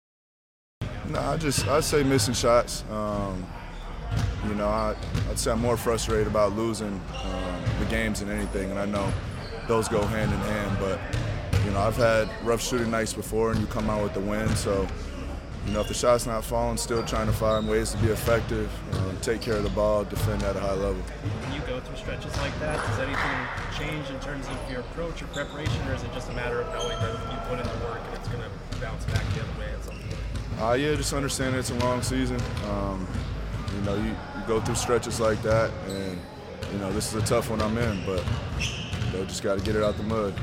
S5: No, I just I say missing shots. Um, you know, I, I'd say I'm more frustrated about losing um, the games than anything, and I know those go hand in hand. But you know, I've had rough shooting nights before, and you come out with the win. So you know, if the shot's not falling, still trying to find ways to be effective, um, take care of the ball, defend at a high level.
S6: When you go through stretches like that, does anything change in terms of your approach or preparation, or is it just a matter of knowing that you put in the work and it's going to bounce back the other way at some point?
S5: Uh, yeah, just understand it's a long season. Um, you know, you, you go through stretches like that, and you know this is a tough one I'm in, but you know, just got to get it out the mud.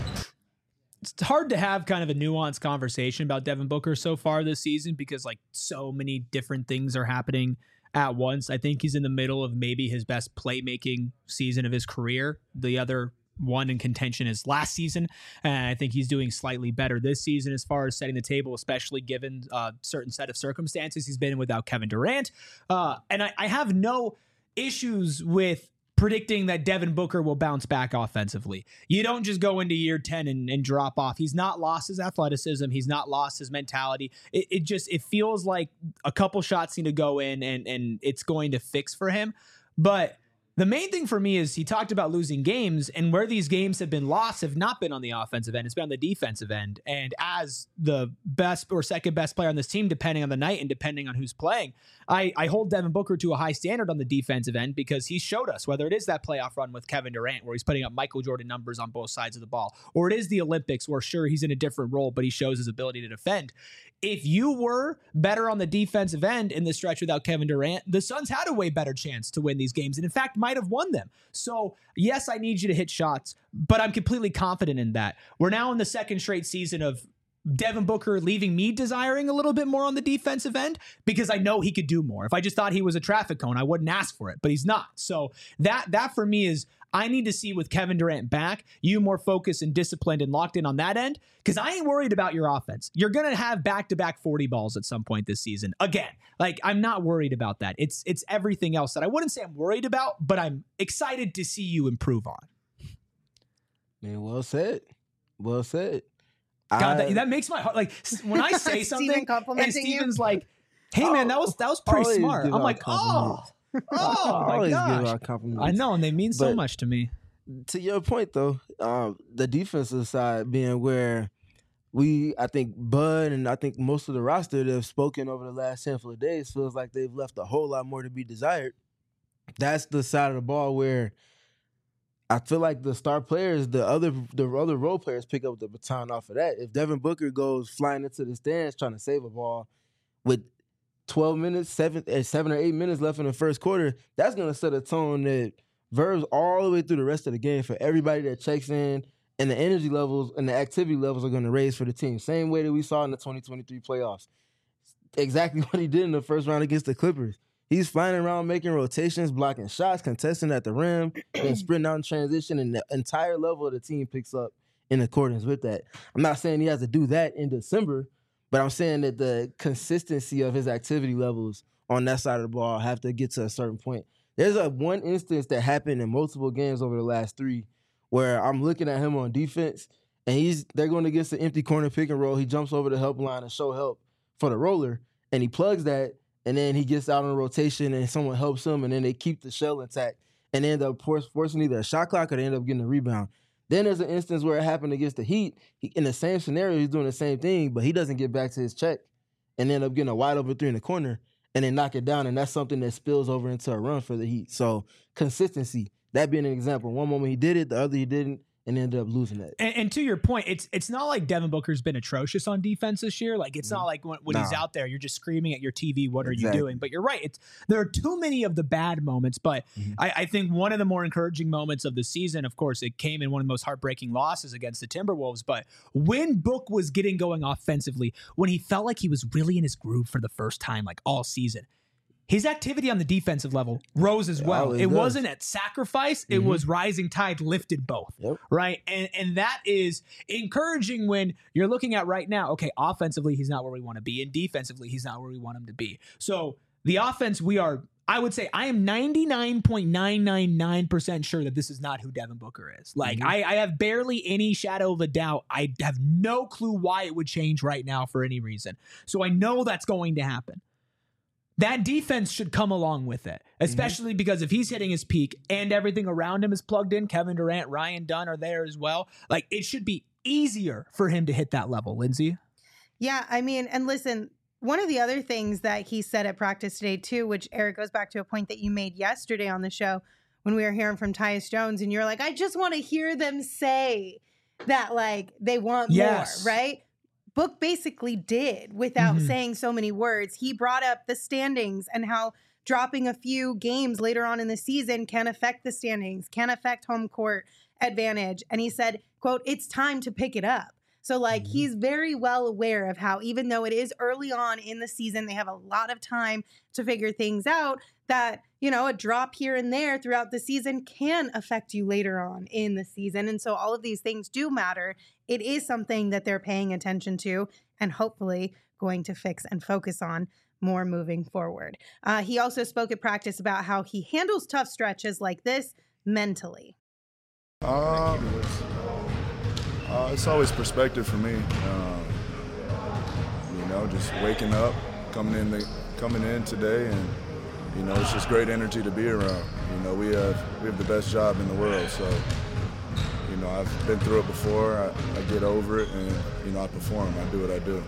S1: It's hard to have kind of a nuanced conversation about Devin Booker so far this season because like so many different things are happening at once. I think he's in the middle of maybe his best playmaking season of his career. The other one in contention is last season, and I think he's doing slightly better this season as far as setting the table, especially given a certain set of circumstances he's been in without Kevin Durant. Uh, and I, I have no issues with predicting that Devin Booker will bounce back offensively. You don't just go into year ten and, and drop off. He's not lost his athleticism. He's not lost his mentality. It, it just, it feels like a couple shots need to go in and, and it's going to fix for him. But the main thing for me is he talked about losing games, and where these games have been lost have not been on the offensive end. It's been on the defensive end. And as the best or second best player on this team, depending on the night and depending on who's playing, I, I hold Devin Booker to a high standard on the defensive end because he showed us, whether it is that playoff run with Kevin Durant where he's putting up Michael Jordan numbers on both sides of the ball, or it is the Olympics where sure, he's in a different role, but he shows his ability to defend. If you were better on the defensive end in the stretch without Kevin Durant, the Suns had a way better chance to win these games and in fact might have won them. So yes, I need you to hit shots, but I'm completely confident in that. We're now in the second straight season of Devin Booker leaving me desiring a little bit more on the defensive end because I know he could do more. If I just thought he was a traffic cone, I wouldn't ask for it, but he's not. So that that for me is I need to see with Kevin Durant back, you more focused and disciplined and locked in on that end because I ain't worried about your offense. You're going to have back-to-back forty balls at some point this season. Again, like I'm not worried about that. It's it's everything else that I wouldn't say I'm worried about, but I'm excited to see you improve on.
S2: Man, well said. Well said.
S1: God,
S2: I,
S1: that, that makes my heart like when I say
S3: Steven
S1: something and
S3: complimenting you?
S1: Steven's like, "Hey man, that was that was pretty
S2: always
S1: smart."
S2: give
S1: I'm
S2: out
S1: like, "Oh,
S2: compliments.
S1: oh
S2: I
S1: my
S2: always
S1: gosh!"
S2: give out compliments.
S1: I know, and they mean so
S2: But-
S1: much to me.
S2: To your point though, um, the defensive side being where we, I think Bud and I think most of the roster that have spoken over the last handful of days feels like they've left a whole lot more to be desired. That's the side of the ball where I feel like the star players, the other the other role players pick up the baton off of that. If Devin Booker goes flying into the stands trying to save a ball with twelve minutes, seven, eh, seven or eight minutes left in the first quarter, that's going to set a tone that verbs all the way through the rest of the game for everybody that checks in, and the energy levels and the activity levels are going to raise for the team. Same way that we saw in the twenty twenty-three playoffs. Exactly what he did in the first round against the Clippers. He's flying around making rotations, blocking shots, contesting at the rim, and sprinting out in transition, and the entire level of the team picks up in accordance with that. I'm not saying he has to do that in December, but I'm saying that the consistency of his activity levels on that side of the ball have to get to a certain point. There's a one instance that happened in multiple games over the last three where I'm looking at him on defense, and he's they're going against the empty corner pick and roll. He jumps over the help line and show help for the roller, and he plugs that, and then he gets out on a rotation, and someone helps him, and then they keep the shell intact, and they end up forcing either a shot clock or they end up getting a rebound. Then there's an instance where it happened against the Heat. He, in the same scenario, he's doing the same thing, but he doesn't get back to his check and end up getting a wide open three in the corner and then knock it down, and that's something that spills over into a run for the Heat. So consistency, that being an example. One moment he did it, the other he didn't, and ended up losing that.
S1: And, and to your point, it's it's not like Devin Booker's been atrocious on defense this year. Like, it's not like when, when he's
S2: Nah.
S1: out there, you're just screaming at your T V, what are
S2: Exactly.
S1: you doing? But you're right. It's there are too many of the bad moments. But
S2: Mhm.
S1: I, I think one of the more encouraging moments of the season, of course, it came in one of the most heartbreaking losses against the Timberwolves. But when Book was getting going offensively, when he felt like he was really in his groove for the first time, like all season, his activity on the defensive level rose as well.
S2: always
S1: It
S2: does.
S1: wasn't at sacrifice. It
S2: Mhm.
S1: was rising tide lifted both.
S2: Yep.
S1: Right. And and that is encouraging when you're looking at right now, okay, offensively, he's not where we want to be. And defensively, he's not where we want him to be. So the offense, we are, I would say, I am ninety-nine point nine nine nine percent sure that this is not who Devin Booker is. Like,
S2: Mhm.
S1: I, I have barely any shadow of a doubt. I have no clue why it would change right now for any reason. So I know that's going to happen. That defense should come along with it, especially because if he's hitting his peak and everything around him is plugged in, Kevin Durant, Ryan Dunn are there as well. Like, it should be easier for him to hit that level, Lindsay.
S3: Yeah, I mean, and listen, one of the other things that he said at practice today too, which Eric goes back to a point that you made yesterday on the show when we were hearing from Tyus Jones, and you're like, I just want to hear them say that, like, they want
S1: Yes.
S3: more, right? Book basically did without
S1: Mhm.
S3: saying so many words. He brought up the standings and how dropping a few games later on in the season can affect the standings, can affect home court advantage. And he said, quote, it's time to pick it up. So, like,
S2: Mhm.
S3: he's very well aware of how, even though it is early on in the season, they have a lot of time to figure things out, that, you know, a drop here and there throughout the season can affect you later on in the season. And so all of these things do matter. It is something that they're paying attention to and hopefully going to fix and focus on more moving forward. Uh, he also spoke at practice about how he handles tough stretches like this mentally.
S5: Uh, uh, it's always perspective for me. Um, you know, just waking up, coming in, the, coming in today, and you know, it's just great energy to be around. You know, we have we have the best job in the world, so you know, I've been through it before. I, I get over it, and you know, I perform. I do what I do.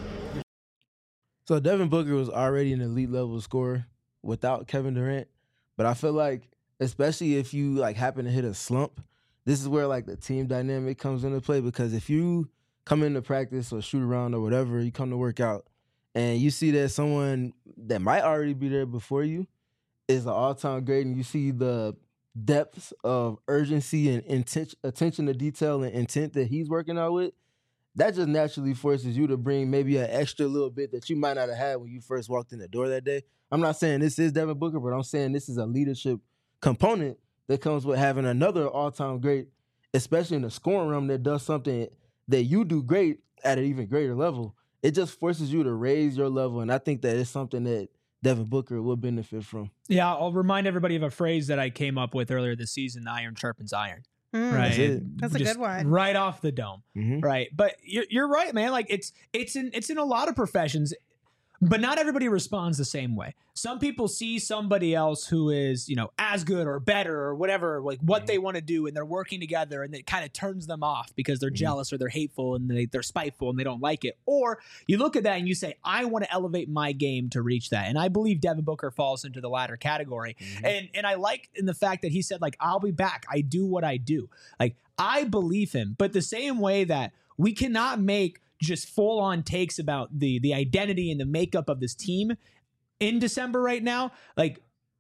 S2: So Devin Booker was already an elite level scorer without Kevin Durant, but I feel like, especially if you like happen to hit a slump, this is where like the team dynamic comes into play, because if you come into practice or shoot around or whatever, you come to work out and you see that someone that might already be there before you is an all-time great, and you see the depths of urgency and intent, attention to detail and intent that he's working out with, that just naturally forces you to bring maybe an extra little bit that you might not have had when you first walked in the door that day. I'm not saying this is Devin Booker, but I'm saying this is a leadership component that comes with having another all-time great, especially in the scoring room, that does something that you do great at an even greater level. It just forces you to raise your level, and I think that it's something that Devin Booker will benefit from.
S1: Yeah, I'll remind everybody of a phrase that I came up with earlier this season: iron sharpens iron.
S3: Mm,
S1: right?
S2: That's it.
S3: That's a
S1: Just
S3: good one.
S1: right off the dome,
S2: Mhm.
S1: right? But you're, you're right, man. Like it's it's in it's in a lot of professions. But not everybody responds the same way. Some people see somebody else who is, you know, as good or better or whatever, like what they want to do, and they're working together, and it kind of turns them off because they're
S2: Mhm.
S1: jealous or they're hateful and they, they're spiteful and they don't like it. Or you look at that and you say, I want to elevate my game to reach that. And I believe Devin Booker falls into the latter category.
S2: Mhm.
S1: And and I like in the fact that he said, like, I'll be back. I do what I do. Like, I believe him. But the same way that we cannot make just full on takes about the the identity and the makeup of this team in December right now, like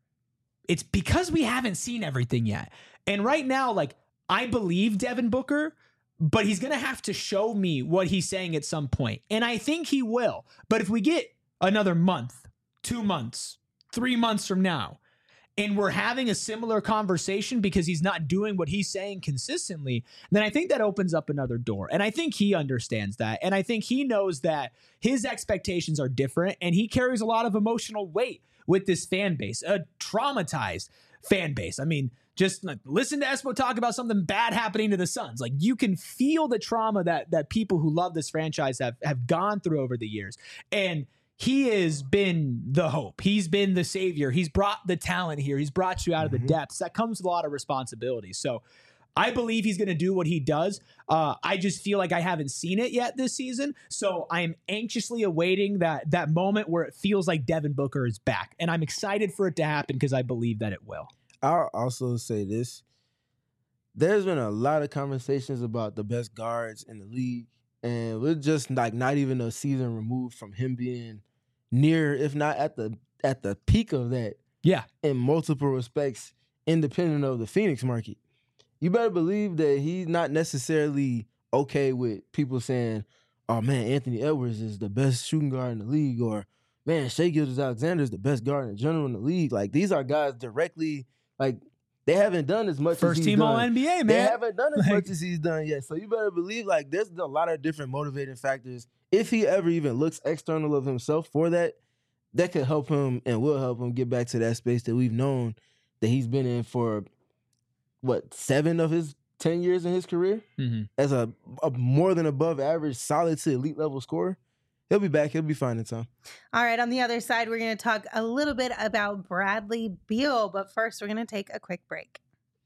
S1: it's because we haven't seen everything yet. And right now, like I believe Devin Booker, but he's going to have to show me what he's saying at some point. And I think he will. But if we get another month, two months, three months from now, and we're having a similar conversation because he's not doing what he's saying consistently, then I think that opens up another door. And I think he understands that. And I think he knows that his expectations are different, and he carries a lot of emotional weight with this fan base, a traumatized fan base. I mean, just like, listen to Espo talk about something bad happening to the Suns. Like you can feel the trauma that that people who love this franchise have have gone through over the years. And he has been the hope. He's been the savior. He's brought the talent here. He's brought you out of the
S2: Mhm.
S1: depths. That comes with a lot of responsibility. So I believe he's going to do what he does. Uh, I just feel like I haven't seen it yet this season. So I'm anxiously awaiting that that moment where it feels like Devin Booker is back. And I'm excited for it to happen because I believe that it will.
S2: I'll also say this. There's been a lot of conversations about the best guards in the league, and we're just like not even a season removed from him being near, if not at the at the peak of that
S1: Yeah.
S2: in multiple respects, independent of the Phoenix market. You better believe that he's not necessarily okay with people saying, oh man, Anthony Edwards is the best shooting guard in the league, or man, Shai Gilgeous-Alexander is the best guard in general in the league. Like these are guys directly, like they haven't done as much
S1: First
S2: as he's
S1: team
S2: done.
S1: All N B A, man.
S2: They haven't done as
S1: Like-
S2: much as he's done yet. So you better believe like there's a lot of different motivating factors. If he ever even looks external of himself for that, that could help him and will help him get back to that space that we've known that he's been in for, what, seven of his ten years in his career?
S1: Mm-hmm.
S2: As a, a more than above average, solid to elite level scorer. He'll be back. He'll be fine in time.
S3: All right, on the other side, we're going to talk a little bit about Bradley Beal, but first we're going to take a quick break.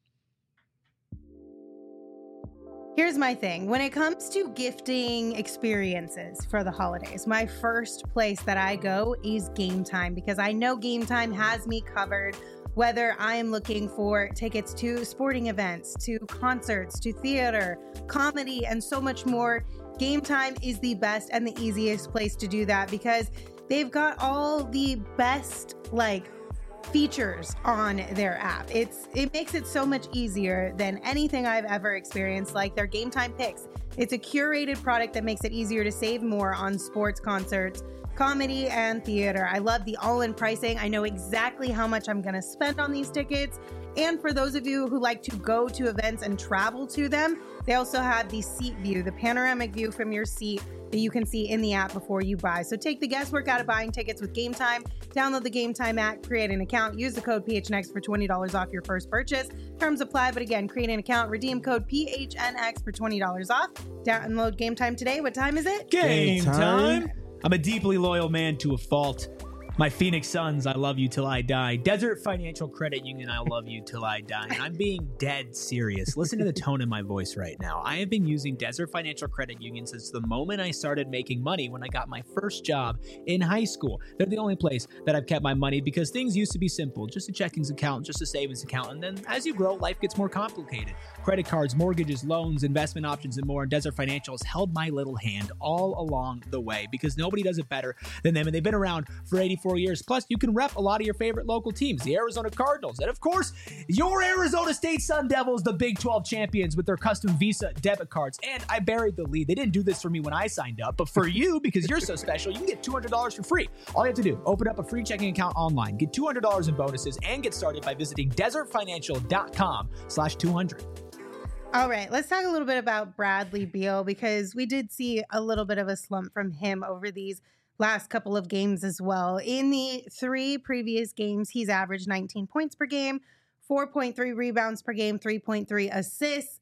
S3: Here's my thing. When it comes to gifting experiences for the holidays, my first place that I go is Game Time, because I know Game Time has me covered, whether I am looking for tickets to sporting events, to concerts, to theater, comedy, and so much more. Game Time is the best and the easiest place to do that because they've got all the best, like, features on their app. It's it makes it so much easier than anything I've ever experienced, like their Game Time picks. It's a curated product that makes it easier to save more on sports, concerts, comedy, and theater. I love the all-in pricing. I know exactly how much I'm going to spend on these tickets. And for those of you who like to go to events and travel to them, they also have the seat view, the panoramic view from your seat that you can see in the app before you buy. So take the guesswork out of buying tickets with Game Time. Download the Game Time app, create an account, use the code P H N X for twenty dollars off your first purchase. Terms apply, but again, create an account, redeem code P H N X for twenty dollars off. Download Game Time today. What time is it?
S1: Game
S2: Game
S1: time.
S2: time.
S1: I'm a deeply loyal man to a fault. My Phoenix Suns, I love you till I die. Desert Financial Credit Union, I love you till I die. And I'm being dead serious. Listen to the tone in my voice right now. I have been using Desert Financial Credit Union since the moment I started making money when I got my first job in high school. They're the only place that I've kept my money because things used to be simple. Just a checkings account, just a savings account. And then as you grow, life gets more complicated. Credit cards, mortgages, loans, investment options, and more. And Desert Financial has held my little hand all along the way because nobody does it better than them. And they've been around for eighty-four years. Plus, you can rep a lot of your favorite local teams, the Arizona Cardinals, and of course, your Arizona State Sun Devils, the Big twelve champions with their custom Visa debit cards. And I buried the lead. They didn't do this for me when I signed up, but for you, because you're so special, you can get two hundred dollars for free. All you have to do, open up a free checking account online, get two hundred dollars in bonuses, and get started by visiting desertfinancial.com slash 200.
S3: All right, let's talk a little bit about Bradley Beal because we did see a little bit of a slump from him over these last couple of games as well. In the three previous games, he's averaged nineteen points per game, four point three rebounds per game, three point three assists,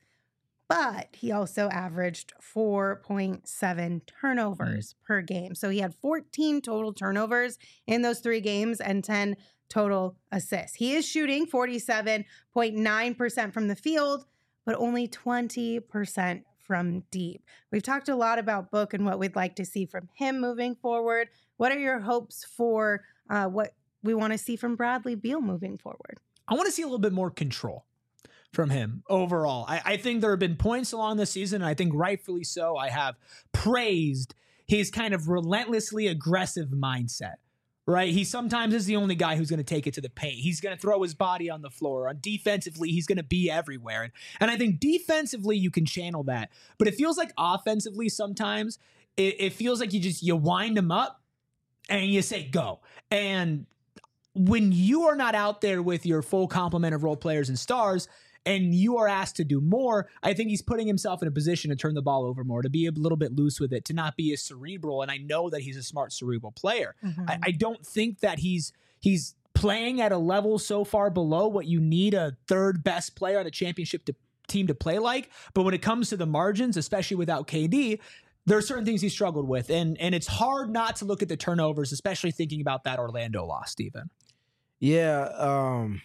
S3: but he also averaged four point seven turnovers mm. per game. So he had fourteen total turnovers in those three games and ten total assists. He is shooting forty-seven point nine percent from the field, but only twenty percent from deep. We've talked a lot about Book and what we'd like to see from him moving forward. What are your hopes for uh, what we want to see from Bradley Beal moving forward?
S1: I want to see a little bit more control from him overall. I, I think there have been points along the season, and I think rightfully so, I have praised his kind of relentlessly aggressive mindset. Right? He sometimes is the only guy who's going to take it to the paint. He's going to throw his body on the floor. On defensively, he's going to be everywhere. And, and I think defensively, you can channel that. But it feels like offensively sometimes, it, it feels like you just, you wind him up and you say, go. And when you are not out there with your full complement of role players and stars, and you are asked to do more, I think he's putting himself in a position to turn the ball over more, to be a little bit loose with it, to not be as cerebral. And I know that he's a smart cerebral player. Mm-hmm. I, I don't think that he's he's playing at a level so far below what you need a third best player on a championship to, team to play like. But when it comes to the margins, especially without K D, there are certain things he struggled with. And, and it's hard not to look at the turnovers, especially thinking about that Orlando loss, Stephen.
S2: Yeah, um...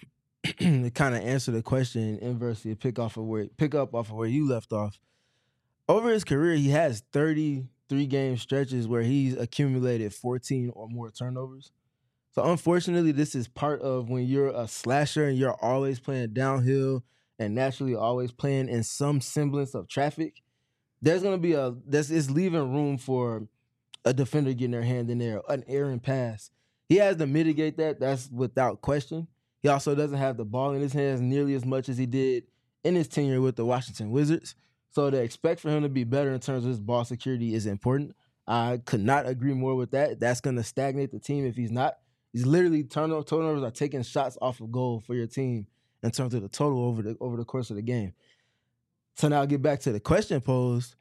S2: to kind of answer the question inversely, pick off of where pick up off of where you left off. Over his career, he has thirty-three game stretches where he's accumulated fourteen or more turnovers. So unfortunately, this is part of when you're a slasher and you're always playing downhill and naturally always playing in some semblance of traffic. There's gonna be a this is leaving room for a defender getting their hand in there, an errant pass. He has to mitigate that. That's without question. He also doesn't have the ball in his hands nearly as much as he did in his tenure with the Washington Wizards. So to expect for him to be better in terms of his ball security is important. I could not agree more with that. That's going to stagnate the team if he's not. He's literally turnover, turnovers are taking shots off of goal for your team in terms of the total over the over the course of the game. So now I'll get back to the question posed.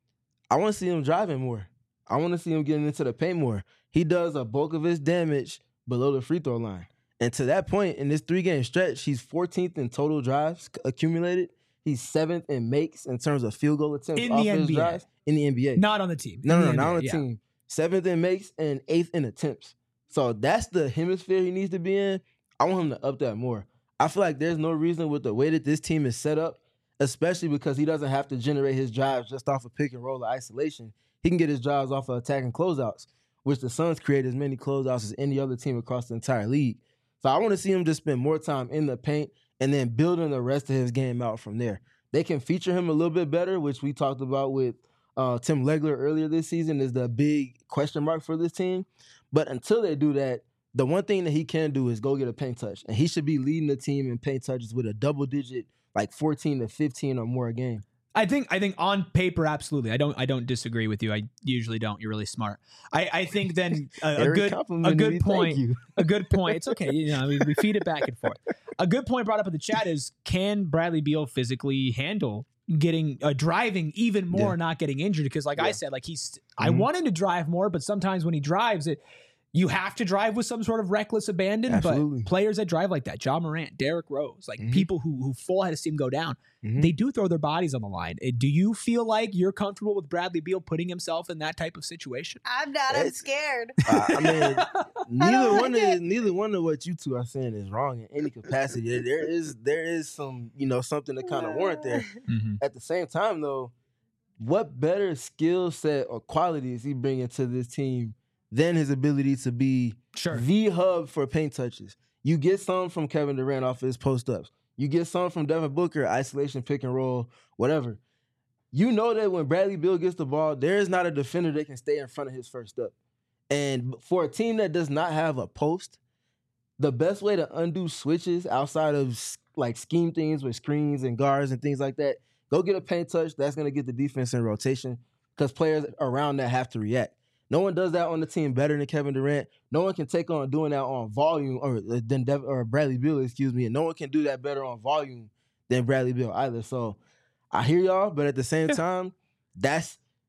S2: I want to see him driving more. I want to see him getting into the paint more. He does a bulk of his damage below the free throw line. And to that point, in this three-game stretch, he's fourteenth in total drives accumulated. He's seventh in makes in terms of field goal attempts
S1: in
S2: off
S1: the
S2: his
S1: N B A.
S2: drives. In the N B A.
S1: Not on the team.
S2: No, no, no,
S1: not
S2: on the
S1: yeah.
S2: team. Seventh in makes and eighth in attempts. So that's the hemisphere he needs to be in. I want him to up that more. I feel like there's no reason with the way that this team is set up, especially because he doesn't have to generate his drives just off of pick and roll or isolation. He can get his drives off of attacking closeouts, which the Suns create as many closeouts as any other team across the entire league. So I want to see him just spend more time in the paint and then building the rest of his game out from there. They can feature him a little bit better, which we talked about with uh, Tim Legler earlier this season, is the big question mark for this team. But until they do that, the one thing that he can do is go get a paint touch. And he should be leading the team in paint touches with a double digit, like fourteen to fifteen or more a game.
S1: I think I think on paper, absolutely. I don't I don't disagree with you. I usually don't. You're really smart. I, I think then a, a good a good point. A good point. It's okay. You know, we, we feed it back and forth. A good point brought up in the chat is, can Bradley Beal physically handle getting uh, driving even more, yeah. not getting injured? Because like yeah. I said, like he's mm-hmm. I want him to drive more, but sometimes when he drives it. You have to drive with some sort of reckless abandon,
S2: Absolutely.
S1: But players that drive like that, Ja Morant, Derrick Rose, like
S2: mm-hmm.
S1: people who who full head of steam go down,
S2: mm-hmm.
S1: they do throw their bodies on the line. Do you feel like you're comfortable with Bradley Beal putting himself in that type of situation?
S3: I'm not. I'm scared.
S2: Uh, I mean, neither like one of neither one of what you two are saying is wrong in any capacity. There is there is some you know something to kind of warrant there.
S1: Mm-hmm.
S2: At the same time, though, what better skill set or qualities he bringing to this team than his ability to be
S1: sure.
S2: the hub for paint touches? You get some from Kevin Durant off of his post-ups. You get some from Devin Booker, isolation, pick and roll, whatever. You know that when Bradley Beal gets the ball, there is not a defender that can stay in front of his first up. And for a team that does not have a post, the best way to undo switches outside of like scheme things with screens and guards and things like that, go get a paint touch. That's going to get the defense in rotation because players around that have to react. No one does that on the team better than Kevin Durant. No one can take on doing that on volume or than Dev, or Bradley Beal, excuse me. And no one can do that better on volume than Bradley Beal either. So I hear y'all, but at the same time, that's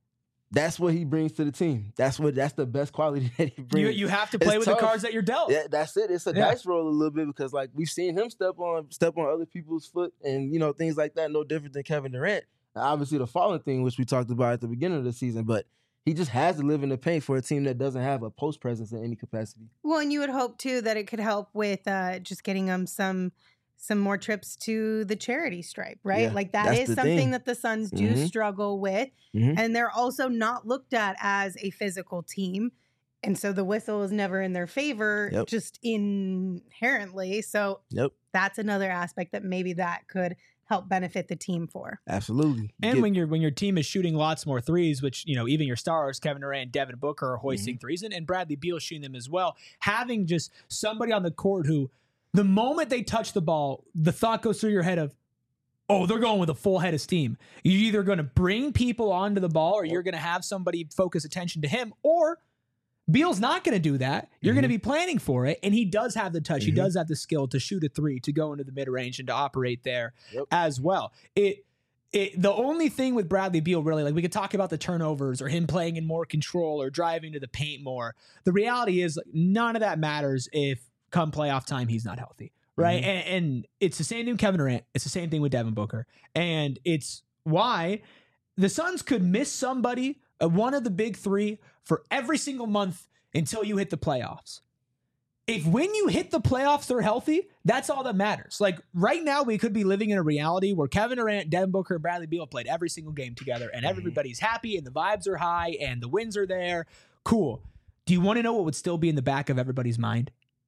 S2: that's what he brings to the team. That's what that's the best quality that he brings.
S1: You, you have to play
S2: It's
S1: with
S2: tough.
S1: the cards that you're dealt.
S2: Yeah, that's it. It's a
S1: Yeah.
S2: dice roll a little bit because like we've seen him step on step on other people's foot and you know things like that. No different than Kevin Durant. Now, obviously the falling thing, which we talked about at the beginning of the season, but he just has to live in the paint for a team that doesn't have a post presence in any capacity.
S3: Well, and you would hope too that it could help with uh, just getting them some some more trips to the charity stripe, right?
S2: Yeah,
S3: like that
S2: that's
S3: is
S2: the
S3: something
S2: thing.
S3: that the Suns do
S2: Mhm.
S3: struggle with,
S2: Mhm.
S3: and they're also not looked at as a physical team, and so the whistle is never in their favor,
S2: Yep.
S3: just inherently. So
S2: Yep,
S3: that's another aspect that maybe that could help benefit the team for.
S2: absolutely.
S1: And
S2: Get-
S1: when your when your team is shooting lots more threes, which you know even your stars Kevin Durant, Devin Booker are hoisting threes, and, and Bradley Beal shooting them as well. Having just somebody on the court who, the moment they touch the ball, the thought goes through your head of, oh, they're going with a full head of steam. You're either going to bring people onto the ball, or you're going to have somebody focus attention to him, or Beal's not going to do that. You're
S2: Mhm.
S1: going to be planning for it, and he does have the touch. He
S2: Mhm.
S1: does have the skill to shoot a three, to go into the mid range, and to operate there
S2: Yep.
S1: as well. It, it, the only thing with Bradley Beal, really, like we could talk about the turnovers or him playing in more control or driving to the paint more. The reality is, like, none of that matters if come playoff time he's not healthy, right?
S2: Mhm.
S1: And, and it's the same thing with Kevin Durant. It's the same thing with Devin Booker, and it's why the Suns could miss somebody, uh, one of the big three, for every single month until you hit the playoffs. If when you hit the playoffs they're healthy, that's all that matters. Like right now, we could be living in a reality where Kevin Durant, Devin Booker, and Bradley Beal played every single game together, and everybody's happy, and the vibes are high, and the wins are there. Cool. Do you want to know what would still be in the back of everybody's mind?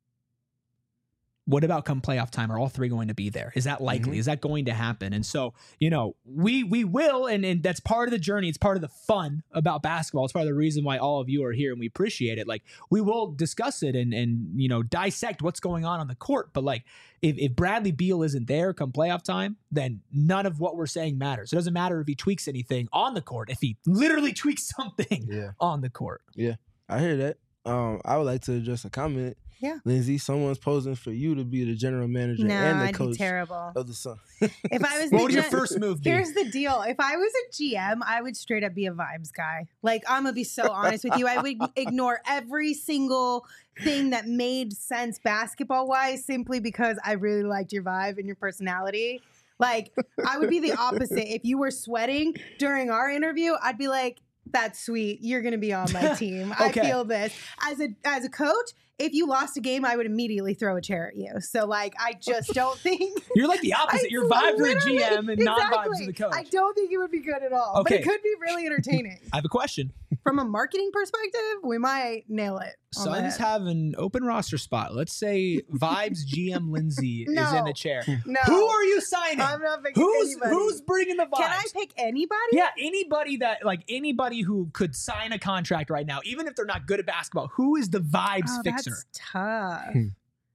S1: What about come playoff time? Are all three going to be there? Is that likely?
S2: Mhm.
S1: Is that going to happen? And so, you know, we we will, and, and that's part of the journey. It's part of the fun about basketball. It's part of the reason why all of you are here, and we appreciate it. Like, we will discuss it and and you know dissect what's going on on the court. But like, if, if Bradley Beal isn't there come playoff time, then none of what we're saying matters. It doesn't matter if he tweaks anything on the court. If he literally tweaks something
S2: Yeah.
S1: on the court.
S2: I hear that. Um, I would like to address a comment.
S3: Yeah.
S2: Lindsay, someone's posing for you to be the general manager
S3: No,
S2: and the
S3: I'd be
S2: coach
S3: terrible.
S2: of the Suns.
S3: If I was
S1: What
S3: the
S1: would your
S3: gen-
S1: first move be?
S3: Here's the deal. If I was a G M, I would straight up be a vibes guy. Like, I'm going to be so honest with you. I would ignore every single thing that made sense basketball wise simply because I really liked your vibe and your personality. Like, I would be the opposite. If you were sweating during our interview, I'd be like, that's sweet. You're going to be on my team.
S1: Okay.
S3: I feel this. As a as a coach, if you lost a game, I would immediately throw a chair at you. So, like, I just don't think...
S1: You're like the opposite.
S3: I
S1: You're vibes to the
S3: literally-
S1: G M and non vibes to
S3: exactly.
S1: the coach.
S3: I don't think it would be good at all, but
S1: Okay.
S3: it could be really entertaining.
S1: I have a question.
S3: From a marketing perspective, we might nail it. on the
S1: Suns
S3: head.
S1: have an open roster spot. Let's say Vibes G M Lindsay is in
S3: No.
S1: the chair.
S3: No.
S1: Who are you signing?
S3: I'm not picking
S1: Who's
S3: anybody.
S1: who's bringing the vibes?
S3: Can I pick anybody?
S1: Yeah, anybody that like anybody who could sign a contract right now, even if they're not good at basketball. Who is the vibes
S3: Oh,
S1: fixer?
S3: that's tough.
S2: Hmm.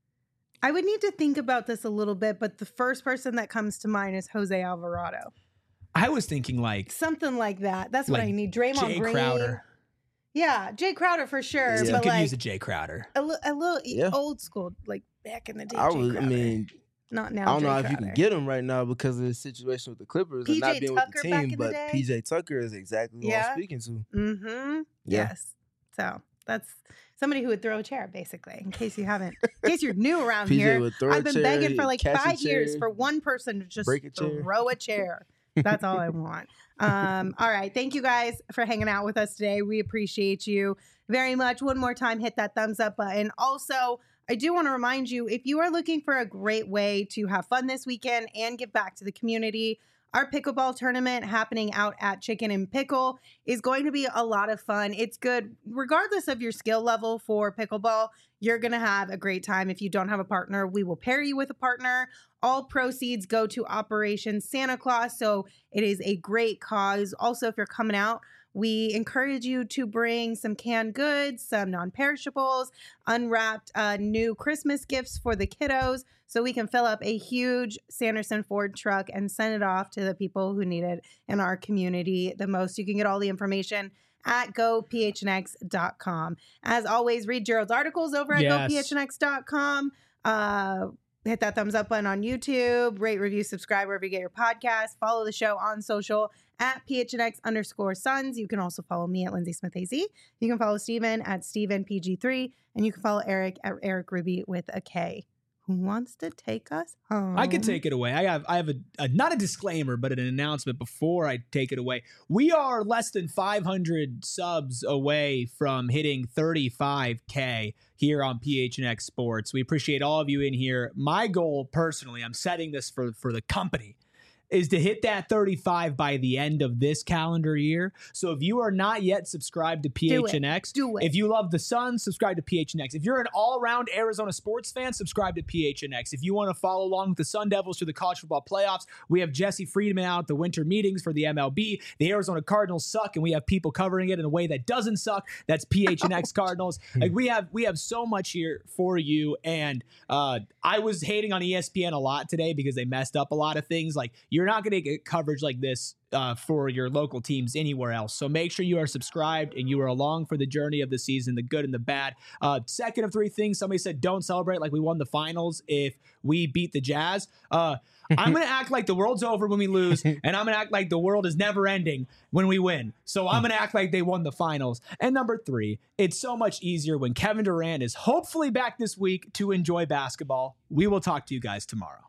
S3: I would need to think about this a little bit, but the first person that comes to mind is Jose Alvarado.
S1: I was thinking like
S3: Something like that. That's what
S1: Like
S3: I need. Draymond
S1: Jay
S3: Green.
S1: Crowder.
S3: Yeah, Jay Crowder for sure.
S1: Still
S3: but
S1: could
S3: like
S1: use a Jay Crowder.
S3: a, li- a little e-
S2: Yeah.
S3: old school, like back in the day.
S2: I
S3: Jay
S2: would. I
S3: Crowder.
S2: mean,
S3: not now.
S2: I don't
S3: Jay
S2: know if you
S3: Crowder.
S2: can get him right now because of the situation with the Clippers
S3: P J
S2: and not being with
S3: Tucker
S2: the
S3: back
S2: team.
S3: in the
S2: But
S3: day?
S2: P J Tucker is exactly who
S3: Yeah.
S2: I'm speaking to.
S3: Mm-hmm.
S2: Yeah.
S3: Yes. So that's somebody who would throw a chair, basically, in case you haven't, in case you're new around
S2: P J
S3: here.
S2: would throw a
S3: I've been
S2: chair,
S3: begging for
S2: he'd
S3: like
S2: catch a
S3: five years
S2: chair,
S3: for one person to just
S2: break a chair.
S3: throw a chair. That's all I want. Um, all right. Thank you guys for hanging out with us today. We appreciate you very much. One more time, hit that thumbs up button. Also, I do want to remind you, if you are looking for a great way to have fun this weekend and give back to the community, our pickleball tournament happening out at Chicken and Pickle is going to be a lot of fun. It's good, regardless of your skill level for pickleball, you're going to have a great time. If you don't have a partner, we will pair you with a partner. All proceeds go to Operation Santa Claus, so it is a great cause. Also, if you're coming out, we encourage you to bring some canned goods, some non-perishables, unwrapped uh, new Christmas gifts for the kiddos, so we can fill up a huge Sanderson Ford truck and send it off to the people who need it in our community the most. You can get all the information at go p h n x dot com. As always, read Gerald's articles over at
S1: Yes.
S3: go p h n x dot com. Uh, hit that thumbs up button on YouTube, rate, review, subscribe wherever you get your podcast. Follow the show on social at P H N X underscore Suns. You can also follow me at Lindsay Smith A Z. You can follow Steven at Steven P G three, and you can follow Eric at Eric Ruby with a K. Who wants to take us home?
S1: I could take it away. I have I have a, a not a disclaimer, but an announcement before I take it away. We are less than five hundred subs away from hitting thirty-five K here on P H N X Sports. We appreciate all of you in here. My goal personally, I'm setting this for, for the company, is to hit that thirty-five by the end of this calendar year. So if you are not yet subscribed to P H N X,
S3: Do it. Do it.
S1: if you love the Suns, subscribe to P H N X. If you're an all-around Arizona sports fan, subscribe to P H N X. If you want to follow along with the Sun Devils through the college football playoffs, we have Jesse Friedman out at the winter meetings for the M L B. The Arizona Cardinals suck, and we have people covering it in a way that doesn't suck. That's P H N X Cardinals. Like we have, we have so much here for you. And uh, I was hating on E S P N a lot today because they messed up a lot of things. Like you're not going to get coverage like this uh, for your local teams anywhere else. So make sure you are subscribed and you are along for the journey of the season, the good and the bad. Uh, second of three things, somebody said, don't celebrate like we won the finals if we beat the Jazz. Uh, I'm going to act like the world's over when we lose, and I'm going to act like the world is never ending when we win. So I'm going to act like they won the finals. And number three, it's so much easier when Kevin Durant is hopefully back this week to enjoy basketball. We will talk to you guys tomorrow.